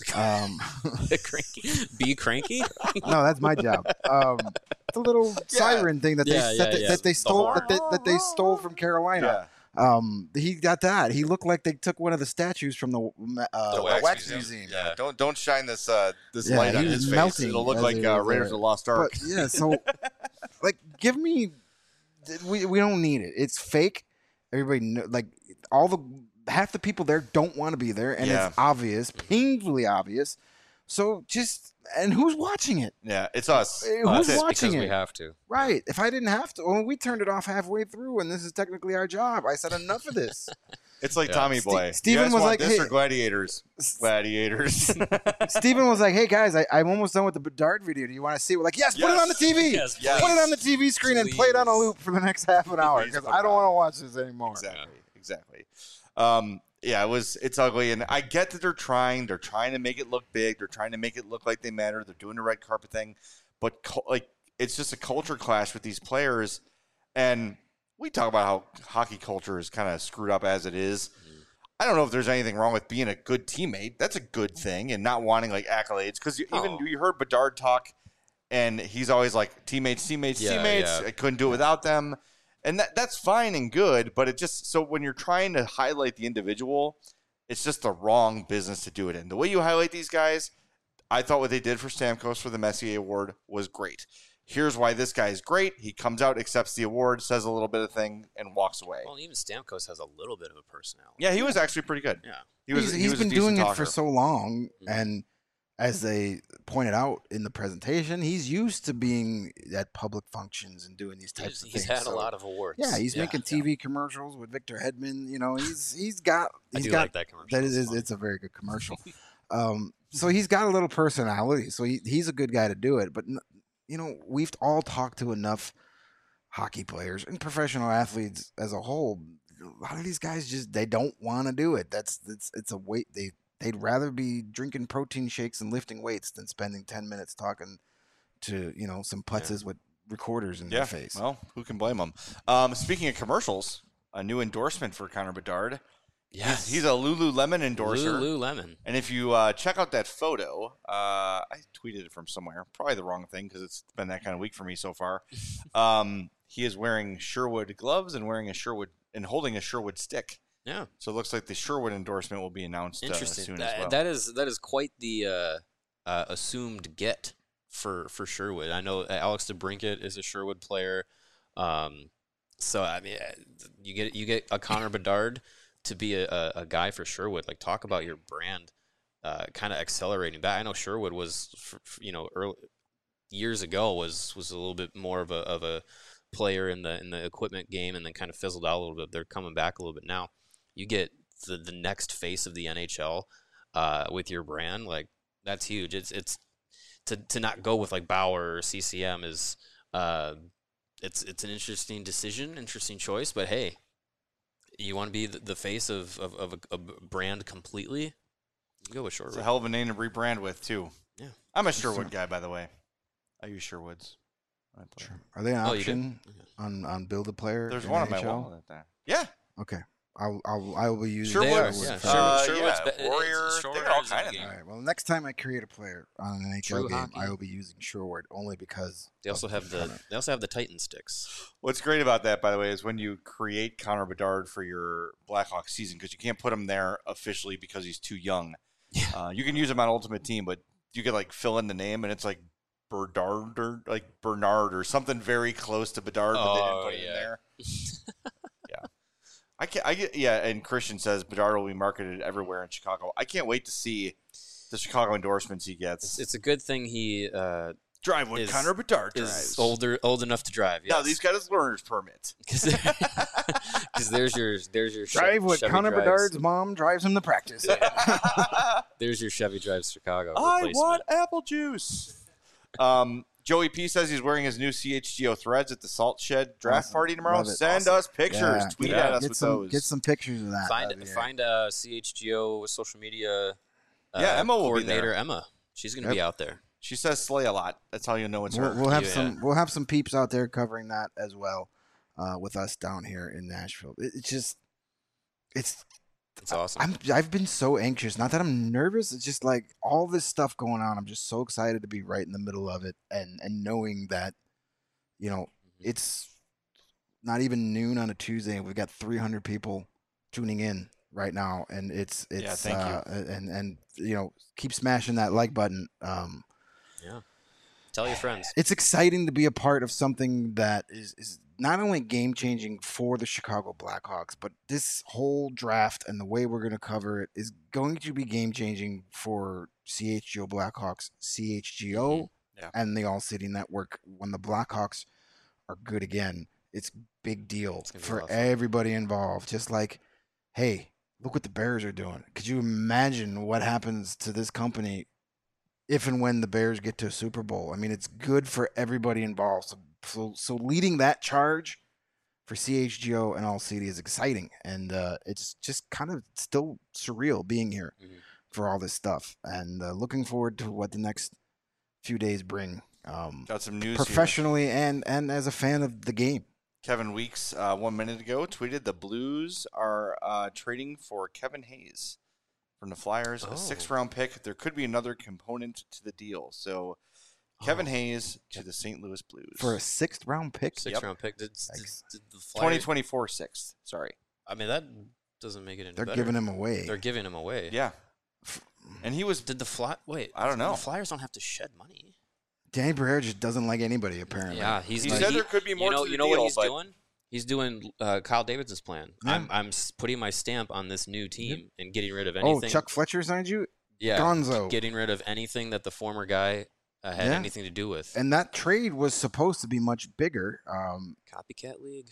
Be cranky? No, that's my job. It's a little siren thing that they stole from Carolina. Yeah. He got that. He looked like they took one of the statues from the Wax Museum. Yeah. Don't shine this light on his face. It'll look like Raiders of the Lost Ark. But, so give me. We don't need it. It's fake. Everybody half the people there don't want to be there, and it's obvious, painfully obvious. So and who's watching it? Yeah, it's us. Who's watching it? We have to. Right. If I didn't have to, we turned it off halfway through, and this is technically our job. I said enough of this. It's like Tommy Boy. Steven was like, "This or Gladiators?" Gladiators. Steven was like, "Hey guys, I'm almost done with the Bedard video. Do you want to see it?" We're like, "Yes, put it on the TV. Yes. Put it on the TV screen and play it on a loop for the next half an hour because I don't want to watch this anymore." Exactly. It's ugly, and I get that they're trying to make it look big, they're trying to make it look like they matter, they're doing the red carpet thing, but it's just a culture clash with these players, and we talk about how hockey culture is kind of screwed up as it is. I don't know if there's anything wrong with being a good teammate. That's a good thing, and not wanting accolades, because you heard Bedard talk, and he's always like teammates. I couldn't do it without them. And that's fine and good, but it just, so when you're trying to highlight the individual, it's just the wrong business to do it in. The way you highlight these guys, I thought what they did for Stamkos for the Messier Award was great. Here's why this guy is great. He comes out, accepts the award, says a little bit of thing, and walks away. Well, even Stamkos has a little bit of a personality. Yeah, he was actually pretty good. Yeah, he's been doing it for so long, and as they pointed out in the presentation, he's used to being at public functions and doing these types of things. He's had a lot of awards. Yeah, he's making TV commercials with Victor Hedman. He's got like that commercial. It's a very good commercial. So he's got a little personality. So he's a good guy to do it. But we've all talked to enough hockey players and professional athletes as a whole. A lot of these guys they don't want to do it. It's a weight They'd rather be drinking protein shakes and lifting weights than spending 10 minutes talking to, some putzes with recorders in their face. Well, who can blame them? Speaking of commercials, a new endorsement for Connor Bedard. Yes. He's a Lululemon endorser. Lululemon. And if you check out that photo, I tweeted it from somewhere. Probably the wrong thing because it's been that kind of week for me so far. He is wearing Sherwood gloves and wearing a Sherwood and holding a Sherwood stick. Yeah. So it looks like the Sherwood endorsement will be announced soon as well. That is quite the assumed get for Sherwood. I know Alex DeBrincat is a Sherwood player. So I mean, you get a Connor Bedard to be a guy for Sherwood. Like, talk about your brand kind of accelerating back. I know Sherwood was early, years ago was a little bit more of a player in the equipment game, and then kind of fizzled out a little bit. They're coming back a little bit now. You get the next face of the NHL with your brand. Like, that's huge. It's to not go with like Bauer or CCM is it's an interesting decision, interesting choice. But hey, you want to be the face of a brand completely? You go with Sherwood. It's a hell of a name to rebrand with too. Yeah, I'm a Sherwood guy, by the way. I use Sherwoods. Sure. Are they an option on Build a Player? There's one on my wall at that. Yeah. Okay. I will be using Sherwood. Sherwood's Warrior. They got all kind of All right. Well, next time I create a player on an NHL game, hockey. I will be using Sherwood only because they also have the Titan sticks. What's great about that, by the way, is when you create Connor Bedard for your Blackhawks season, because you can't put him there officially because he's too young. You can use him on Ultimate Team, but you could like fill in the name, and it's like Bernard or something very close to Bedard, but they didn't put it in there. And Christian says Bedard will be marketed everywhere in Chicago. I can't wait to see the Chicago endorsements he gets. It's a good thing he drive when Connor Bedard drives. Is old enough to drive. Yes. No, he's got his learner's permit. Because there's your drive what Chevy Connor drives. Bedard's mom drives him to practice. There's your Chevy Drives Chicago. I want apple juice. Joey P says he's wearing his new CHGO threads at the Salt Shed draft party tomorrow. Send us pictures. Tweet at us with those. Get some pictures of that. Find CHGO social media Emma will be coordinator, there. Emma. She's going to be out there. She says slay a lot. That's how you know it's her. We'll have some peeps out there covering that as well with us down here in Nashville. It's awesome. I've been so anxious. Not that I'm nervous. It's just like all this stuff going on. I'm just so excited to be right in the middle of it, and knowing that, it's not even noon on a Tuesday, and we've got 300 people tuning in right now, and it's thank you. And keep smashing that like button. Tell your friends. It's exciting to be a part of something that is not only game-changing for the Chicago Blackhawks, but this whole draft and the way we're going to cover it is going to be game-changing for CHGO Blackhawks, CHGO, and the All City Network. When the Blackhawks are good again, it's big deal for everybody involved. Just like, hey, look what the Bears are doing. Could you imagine what happens to this company if and when the Bears get to a Super Bowl? I mean, it's good for everybody involved. So leading that charge for CHGO and All City is exciting, and it's just kind of still surreal being here for all this stuff, and looking forward to what the next few days bring. Got some news professionally here. and as a fan of the game. Kevin Weeks 1 minute ago tweeted the Blues are trading for Kevin Hayes from the Flyers, a 6th-round pick. There could be another component to the deal. So Kevin Hayes to the St. Louis Blues. For a 6th-round pick? 6th-round pick. Did the Flyers, 2024 6th. Sorry. I mean, that doesn't make it any better. They're giving him away. They're giving him away. Yeah. And he was... Wait. I don't know. The Flyers don't have to shed money. Danny Briere just doesn't like anybody, apparently. Yeah, he said there could be more to the deal. You know what he's doing? He's doing Kyle Davidson's plan. Yeah. I'm putting my stamp on this new team and getting rid of anything. Oh, Chuck Fletcher signed you? Yeah. Gonzo. Getting rid of anything that the former guy had anything to do with. And that trade was supposed to be much bigger. Copycat league.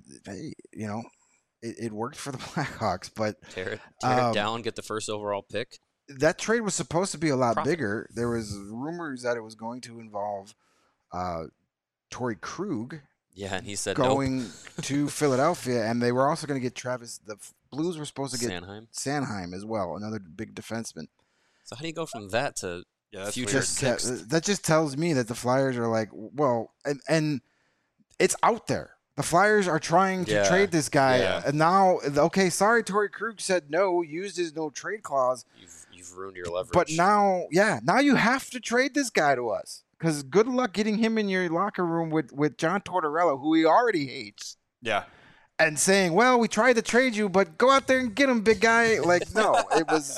It worked for the Blackhawks, but tear it down, get the first overall pick. That trade was supposed to be a lot bigger. There was rumors that it was going to involve Torrey Krug. Yeah, and he said going to Philadelphia, and they were also going to get Travis. The Blues were supposed to get Sanheim as well, another big defenseman. So how do you go from that to future that just tells me that the Flyers are like, well, and it's out there. The Flyers are trying to trade this guy, and now, sorry, Torrey Krug said no, used his no trade clause. You've ruined your leverage. But now you have to trade this guy to us. Because good luck getting him in your locker room with John Tortorella, who he already hates. Yeah. and saying, "Well, we tried to trade you, but go out there and get him, big guy." Like, no, it was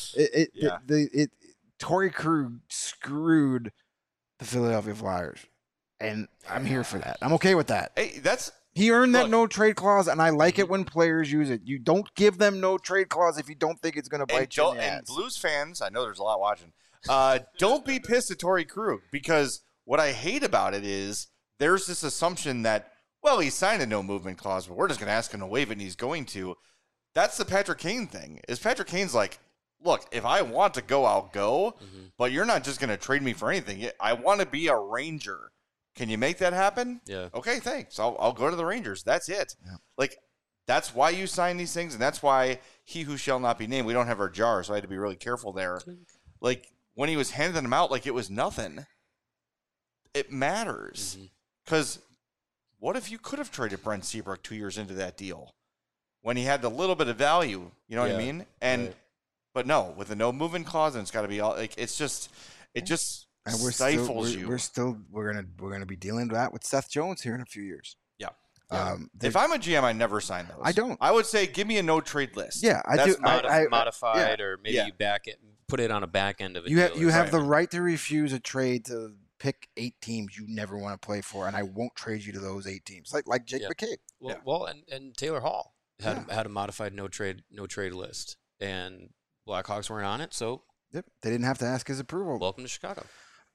Torrey Krug screwed the Philadelphia Flyers, and I'm here for that. I'm okay with that. Hey, he earned that no trade clause, and I like it when players use it. You don't give them no trade clause if you don't think it's going to bite you in the ass. And Blues fans, I know there's a lot watching. Don't be pissed at Torrey Krug, because what I hate about it is there's this assumption that, well, he signed a no movement clause, but we're just going to ask him to waive it, and he's going to. That's the Patrick Kane thing. Is Patrick Kane's like, look, if I want to go, I'll go, but you're not just going to trade me for anything. I want to be a Ranger. Can you make that happen? Yeah. Okay, thanks. I'll go to the Rangers. That's it. Yeah. Like, that's why you sign these things, and that's why he who shall not be named. We don't have our jar, so I had to be really careful there. Like, when he was handing them out like it was nothing, it matters. Because what if you could have traded Brent Seabrook 2 years into that deal when he had a little bit of value? You know what I mean? And but no, with a no movement clause, and it's got to be all like it just and stifles you. We're gonna be dealing with that with Seth Jones here in a few years. Yeah. If I'm a GM, I never sign those. I don't. I would say give me a no trade list. Yeah, I do. Modified, or maybe you back it, put it on a back end of it. You have the right to refuse a trade to pick 8 teams you never want to play for, and I won't trade you to those 8 teams. Like Jake McCabe. Well, and Taylor Hall had a modified no trade list, and Blackhawks weren't on it, so they didn't have to ask his approval. Welcome to Chicago.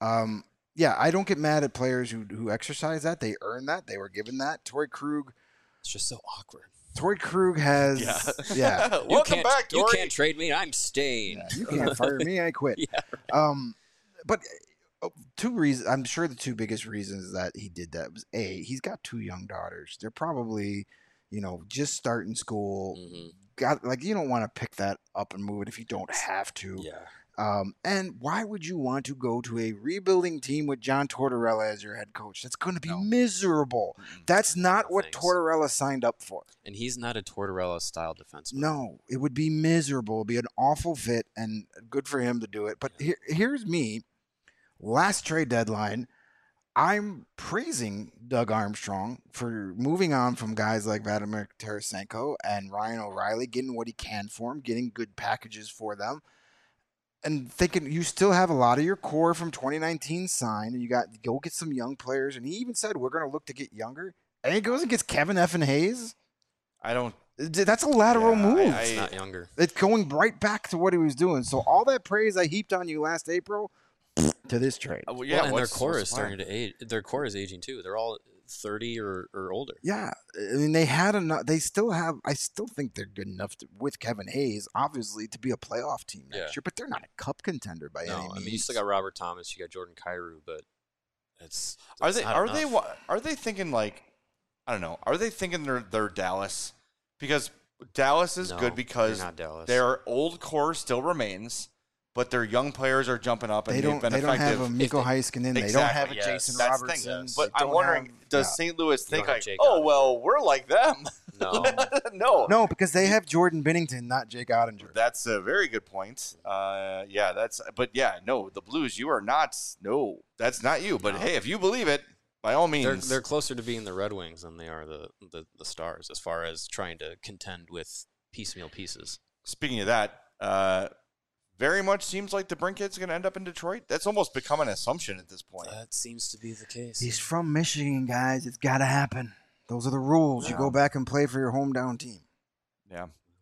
I don't get mad at players who exercise that. They earn that. They were given that. Torrey Krug. It's just so awkward. Torrey Krug has. Yeah. Welcome back, Torrey. You can't trade me. I'm staying. Yeah, you can't fire me. I quit. Yeah, right. But 2 reasons. I'm sure the 2 biggest reasons that he did that was he's got 2 young daughters. They're probably, just starting school. You don't want to pick that up and move it if you don't have to. Yeah. And why would you want to go to a rebuilding team with John Tortorella as your head coach? That's going to be miserable. That's not what Tortorella signed up for. And he's not a Tortorella-style defenseman. No, it would be miserable. It would be an awful fit, and good for him to do it. But here's me. Last trade deadline, I'm praising Doug Armstrong for moving on from guys like Vladimir Tarasenko and Ryan O'Reilly, getting what he can for him, getting good packages for them. And thinking you still have a lot of your core from 2019 signed, and you got go get some young players. And he even said we're going to look to get younger. And he goes and gets Kevin Effin Hayes. That's a lateral move. It's not younger. It's going right back to what he was doing. So all that praise I heaped on you last April to this trade. And their core is starting to age. Their core is aging too. They're all 30 or older. Yeah, I mean they had enough. They still have. I still think they're good enough with Kevin Hayes, obviously, to be a playoff team next year. But they're not a cup contender by any means. I mean, you still got Robert Thomas, you got Jordan Kyrou, but it's are they thinking like, I don't know? Are they thinking they're Dallas? Because Dallas is good because their old core still remains. But their young players are jumping up, and they've been effective. They don't have a Mikko Heiskanen. They don't have a Jason Robertson. But I'm wondering, does St. Louis think like, oh, well, we're like them? No. No, because they have Jordan Binnington, not Jake Ottinger. That's a very good point. The Blues, you are not. No, that's not you. But hey, if you believe it, by all means. They're closer to being the Red Wings than they are the Stars as far as trying to contend with piecemeal pieces. Speaking of that, very much seems like the Brinkhead's going to end up in Detroit. That's almost become an assumption at this point. That seems to be the case. He's from Michigan, guys. It's got to happen. Those are the rules. Yeah. You go back and play for your hometown team. Yeah.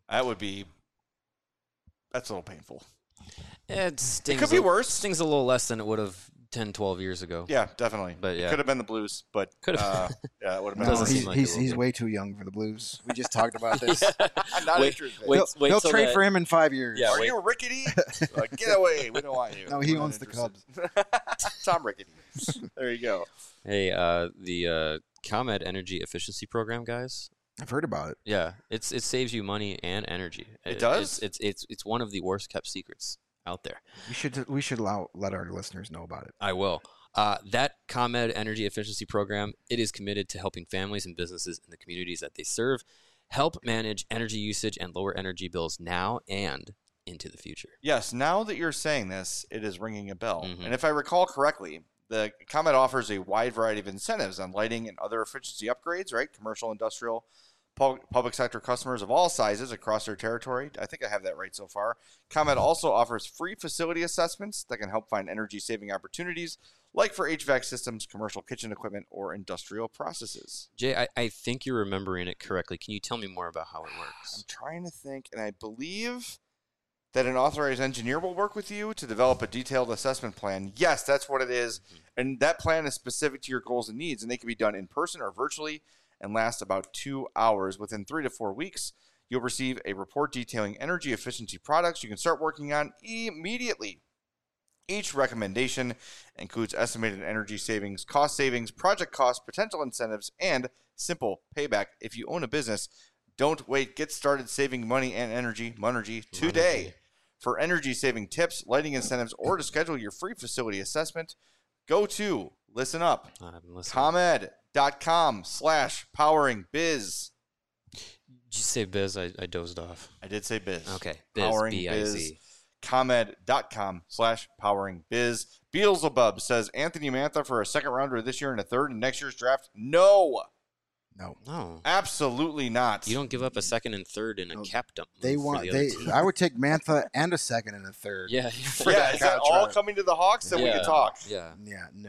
That's a little painful. It could be worse. Stings a little less than it would have 10, 12 years ago. Yeah, definitely. But it could have been the Blues, but it would have been. He's way too young for the Blues. We just talked about this. Not interested. He'll trade for him in 5 years. Yeah, are you rickety? Get away. We don't want you. No, he owns the Cubs. Tom Rickety. There you go. Hey, the ComEd Energy Efficiency Program, guys. I've heard about it. Yeah, it saves you money and energy. It does? It's one of the worst kept secrets out there. We should let our listeners know about it. I will. That ComEd Energy Efficiency Program, it is committed to helping families and businesses in the communities that they serve help manage energy usage and lower energy bills now and into the future. Yes, now that you're saying this, it is ringing a bell. Mm-hmm. And if I recall correctly, the ComEd offers a wide variety of incentives on lighting and other efficiency upgrades, right? Commercial, industrial, public sector customers of all sizes across their territory. I think I have that right so far. ComEd also offers free facility assessments that can help find energy-saving opportunities, like for HVAC systems, commercial kitchen equipment, or industrial processes. Jay, I think you're remembering it correctly. Can you tell me more about how it works? I'm trying to think, and I believe that an authorized engineer will work with you to develop a detailed assessment plan. Yes, that's what it is. And that plan is specific to your goals and needs, and they can be done in person or virtually and last about 2 hours. Within 3 to 4 weeks, you'll receive a report detailing energy efficiency products you can start working on immediately. Each recommendation includes estimated energy savings, cost savings, project costs, potential incentives, and simple payback. If you own a business, don't wait. Get started saving money and energy today. For energy-saving tips, lighting incentives, or to schedule your free facility assessment, go to, listen up, ComEd.com/poweringbiz. Did you say biz? I dozed off. I did say biz. Okay. Biz, Powering B-I-Z. Biz. ComEd.com/poweringbiz. Beelzebub says Anthony Mantha for a second rounder this year and a third in next year's draft. No. No. Absolutely not. You don't give up a second and third in a cap dump. I would take Mantha and a second and a third. Yeah. Is that all coming to the Hawks? Then we can talk. Yeah. No.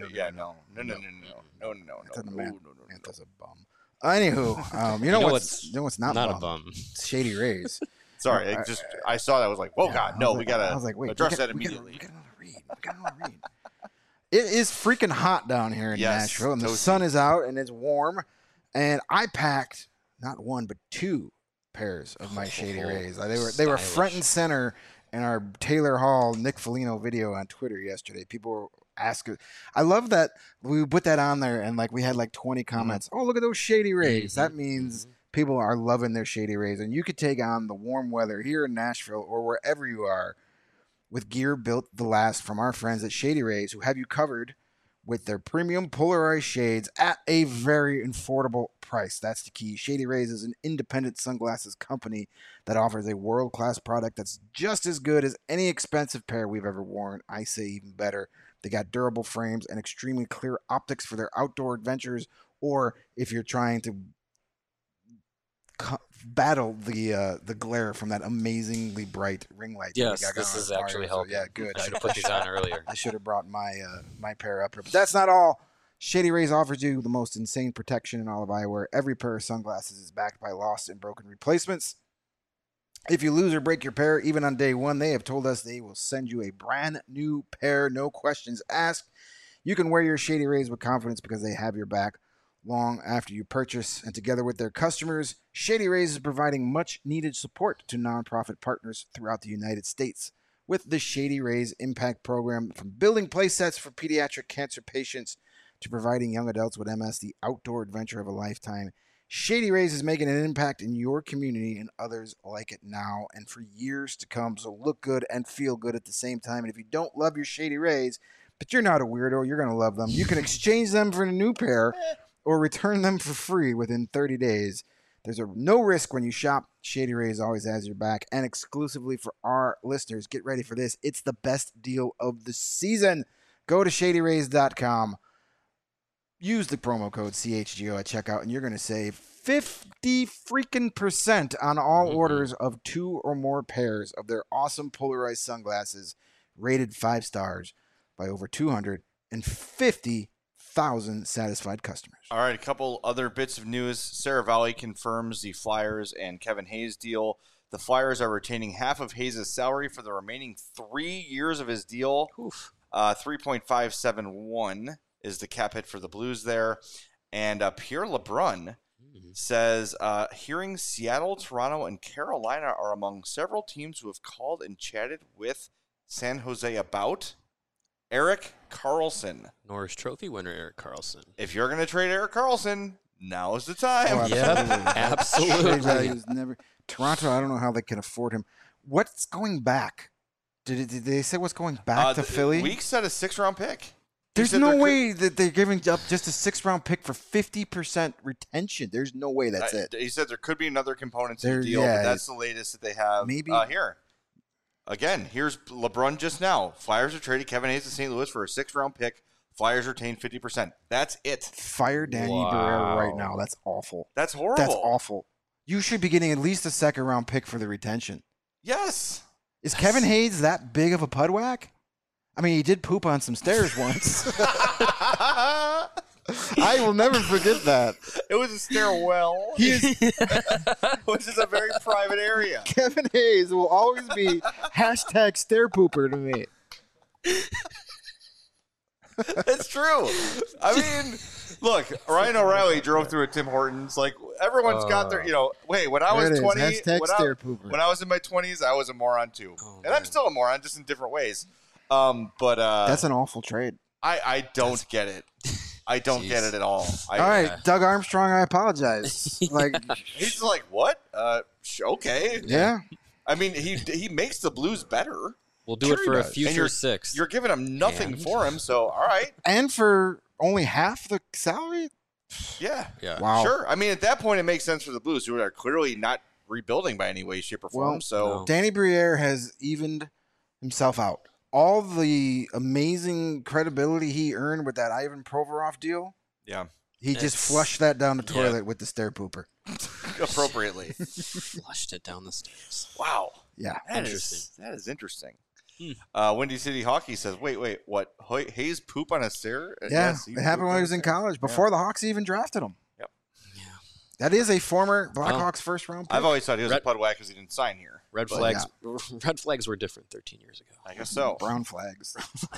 Mantha's a bum. Anywho, you know what's not a bum? bum? Shady Rays. Sorry, I saw that. I was like, whoa, God, no, we got to address that immediately. We got another read. It is freaking hot down here in Nashville, and the sun is out, and it's warm. And I packed not one, but 2 pairs of my Shady Rays. They were front and center in our Taylor Hall Nick Foligno video on Twitter yesterday. People were asking. I love that we put that on there, and we had 20 comments. Oh, look at those Shady Rays. That means people are loving their Shady Rays, and you could take on the warm weather here in Nashville or wherever you are with gear built to last from our friends at Shady Rays, who have you covered with their premium polarized shades at a very affordable price. That's the key. Shady Rays is an independent sunglasses company that offers a world-class product that's just as good as any expensive pair we've ever worn. I say even better. They got durable frames and extremely clear optics for their outdoor adventures, or if you're trying to battle the glare from that amazingly bright ring light. Yes, this is actually helping. So, yeah, good. I should have put these on earlier. I should have brought my pair up here. But that's not all. Shady Rays offers you the most insane protection in all of eyewear. Every pair of sunglasses is backed by lost and broken replacements. If you lose or break your pair, even on day one, they have told us they will send you a brand new pair, no questions asked. You can wear your Shady Rays with confidence because they have your back long after you purchase. And together with their customers, Shady Rays is providing much needed support to nonprofit partners throughout the United States. With the Shady Rays Impact Program, from building play sets for pediatric cancer patients to providing young adults with MS the outdoor adventure of a lifetime, Shady Rays is making an impact in your community and others like it now and for years to come. So look good and feel good at the same time. And if you don't love your Shady Rays, but you're not a weirdo, you're going to love them, you can exchange them for a new pair or return them for free within 30 days. There's no risk when you shop. Shady Rays always has your back. And exclusively for our listeners, get ready for this. It's the best deal of the season. Go to ShadyRays.com. Use the promo code CHGO at checkout, and you're going to save 50% on all orders of 2 or more pairs of their awesome polarized sunglasses, rated 5 stars by over 250,000 satisfied customers. All right, a couple other bits of news. Sarah Valley confirms the Flyers and Kevin Hayes deal. The Flyers are retaining half of Hayes' salary for the remaining 3 years of his deal. 3.571 is the cap hit for the Blues there. And Pierre LeBrun says, hearing Seattle, Toronto, and Carolina are among several teams who have called and chatted with San Jose about Erik Karlsson. Norris Trophy winner Erik Karlsson. If you're going to trade Erik Karlsson, now is the time. Oh, absolutely. Toronto, I don't know how they can afford him. What's going back? Did they say what's going back to Philly? Weeks said a 6th-round pick. There's no way that they're giving up just a 6th-round pick for 50% retention. There's no way that's it. He said there could be another component to the deal, but that's the latest that they have here. Again, here's LeBrun just now. Flyers have traded Kevin Hayes to St. Louis for a 6th-round pick. Flyers retain 50%. That's it. Fire Danny Barrera right now. That's awful. That's horrible. That's awful. You should be getting at least a second-round pick for the retention. Yes. Is Kevin Hayes that big of a pudwhack? I mean, he did poop on some stairs once. I will never forget that. It was a stairwell. Which is a very private area. Kevin Hayes will always be #stair pooper to me. It's true. I mean, look, Ryan O'Reilly drove through a Tim Hortons. Like, everyone's got their, wait, when I was 20, when I was in my 20s, I was a moron too. And I'm still a moron, just in different ways. But that's an awful trade. I don't get it. I don't get it at all. All right, Doug Armstrong, I apologize. He's like, what? Okay. Yeah. I mean, he makes the Blues better. We'll do it for a future sixth. You're giving him nothing for him, so all right. And for only half the salary? Yeah. Wow. Sure. I mean, at that point, it makes sense for the Blues, who are clearly not rebuilding by any way, shape, or form. Danny Briere has evened himself out. All the amazing credibility he earned with that Ivan Provorov deal. Yeah. He just flushed that down the toilet with the stair pooper. Appropriately. Flushed it down the stairs. Wow. Yeah. That is interesting. Windy City Hockey says, wait, what? Hayes poop on a stair? Yeah, Yes, it happened when he was in college, before the Hawks even drafted him. Yep. Yeah. That is a former Blackhawks first-round pick. I've always thought he was a pudwhack because he didn't sign here. Red flags were different 13 years ago. I guess so. Brown flags.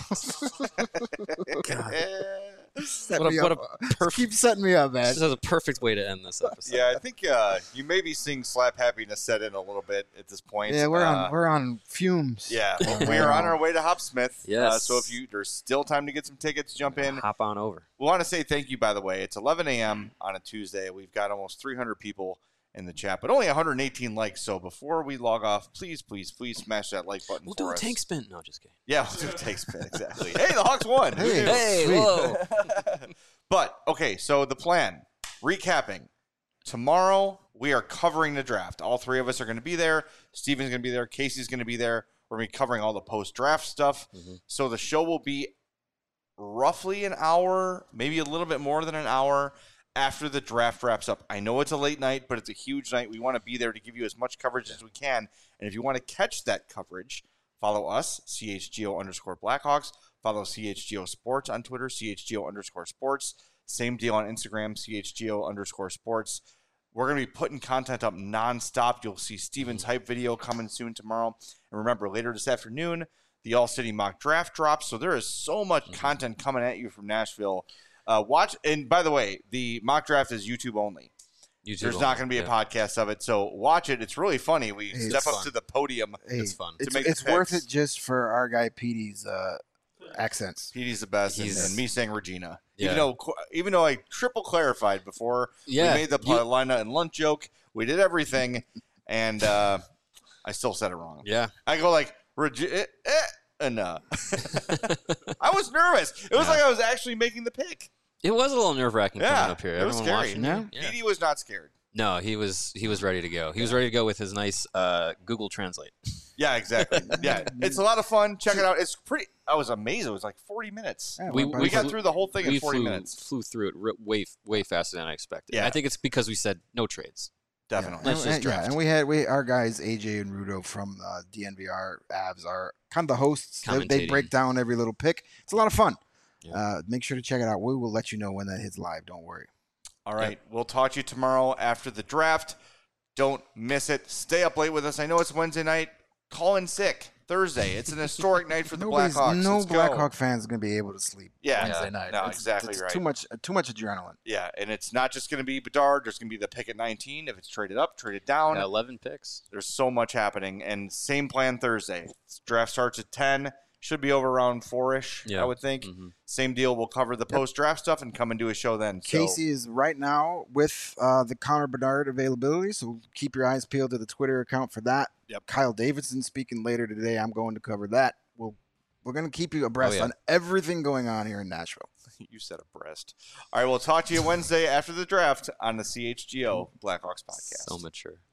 Keep setting me up, man. This is a perfect way to end this episode. Yeah, I think you may be seeing slap happiness set in a little bit at this point. Yeah, we're on fumes. Yeah, we are on our way to Hopsmith. Yes. So if there's still time to get some tickets, jump in. Hop on over. We want to say thank you, by the way. It's 11 a.m. on a Tuesday. We've got almost 300 people in the chat, but only 118 likes. So before we log off, please smash that like button. We'll do a tank spin. No, just kidding. Yeah, we'll do a tank spin. Exactly. Hey, the Hawks won. Hey, whoa. But okay, so the plan. Recapping. Tomorrow we are covering the draft. All three of us are going to be there. Steven's going to be there. Casey's going to be there. We're going to be covering all the post-draft stuff. Mm-hmm. So the show will be roughly an hour, maybe a little bit more than an hour after the draft wraps up. I know it's a late night, but it's a huge night. We want to be there to give you as much coverage as we can. And if you want to catch that coverage, follow us, CHGO_Blackhawks. Follow CHGO Sports on Twitter, CHGO_Sports. Same deal on Instagram, CHGO_Sports. We're going to be putting content up nonstop. You'll see Steven's hype video coming soon tomorrow. And remember, later this afternoon, the All-City mock draft drops. So there is so much content coming at you from Nashville. Watch, and by the way, the mock draft is YouTube only. There's not going to be a podcast of it, so watch it. It's really funny. We step up to the podium. It's fun. It's worth it just for our guy Petey's accents. Petey's the best, and me saying Regina. Yeah. Even though I triple clarified before we made the Paulina and Lunt joke, we did everything, and I still said it wrong. Yeah. I go like, and I was nervous. It was like I was actually making the pick. It was a little nerve-wracking coming up here. It was scary. Yeah. Petey was not scared. No, he was ready to go. He was ready to go with his nice Google Translate. Yeah, exactly. Yeah, it's a lot of fun. Check it out. It's pretty. I was amazed. It was like 40 minutes. Yeah, we got through the whole thing in 40 minutes. Flew through it way faster than I expected. Yeah. I think it's because we said no trades. Definitely. Yeah. Let's just draft. And our guys AJ and Rudo from DNVR Avs are kind of the hosts. They break down every little pick. It's a lot of fun. Yeah. Make sure to check it out. We will let you know when that hits live. Don't worry. All right. We'll talk to you tomorrow after the draft. Don't miss it. Stay up late with us. I know it's Wednesday night. Call in sick Thursday. It's an historic night for the Blackhawks. No Blackhawk fans is going to be able to sleep Wednesday night. No, exactly right. Too much adrenaline. Yeah, and it's not just going to be Bedard. There's going to be the pick at 19. If it's traded up, traded down. 11 picks. There's so much happening. And same plan Thursday. Draft starts at 10. Should be over around 4-ish, I would think. Mm-hmm. Same deal. We'll cover the post-draft stuff and come and do a show then. Casey is right now with the Connor Bedard availability, so keep your eyes peeled to the Twitter account for that. Yep. Kyle Davidson speaking later today. I'm going to cover that. We're going to keep you abreast on everything going on here in Nashville. You said abreast. All right, we'll talk to you Wednesday after the draft on the CHGO Blackhawks podcast. So mature.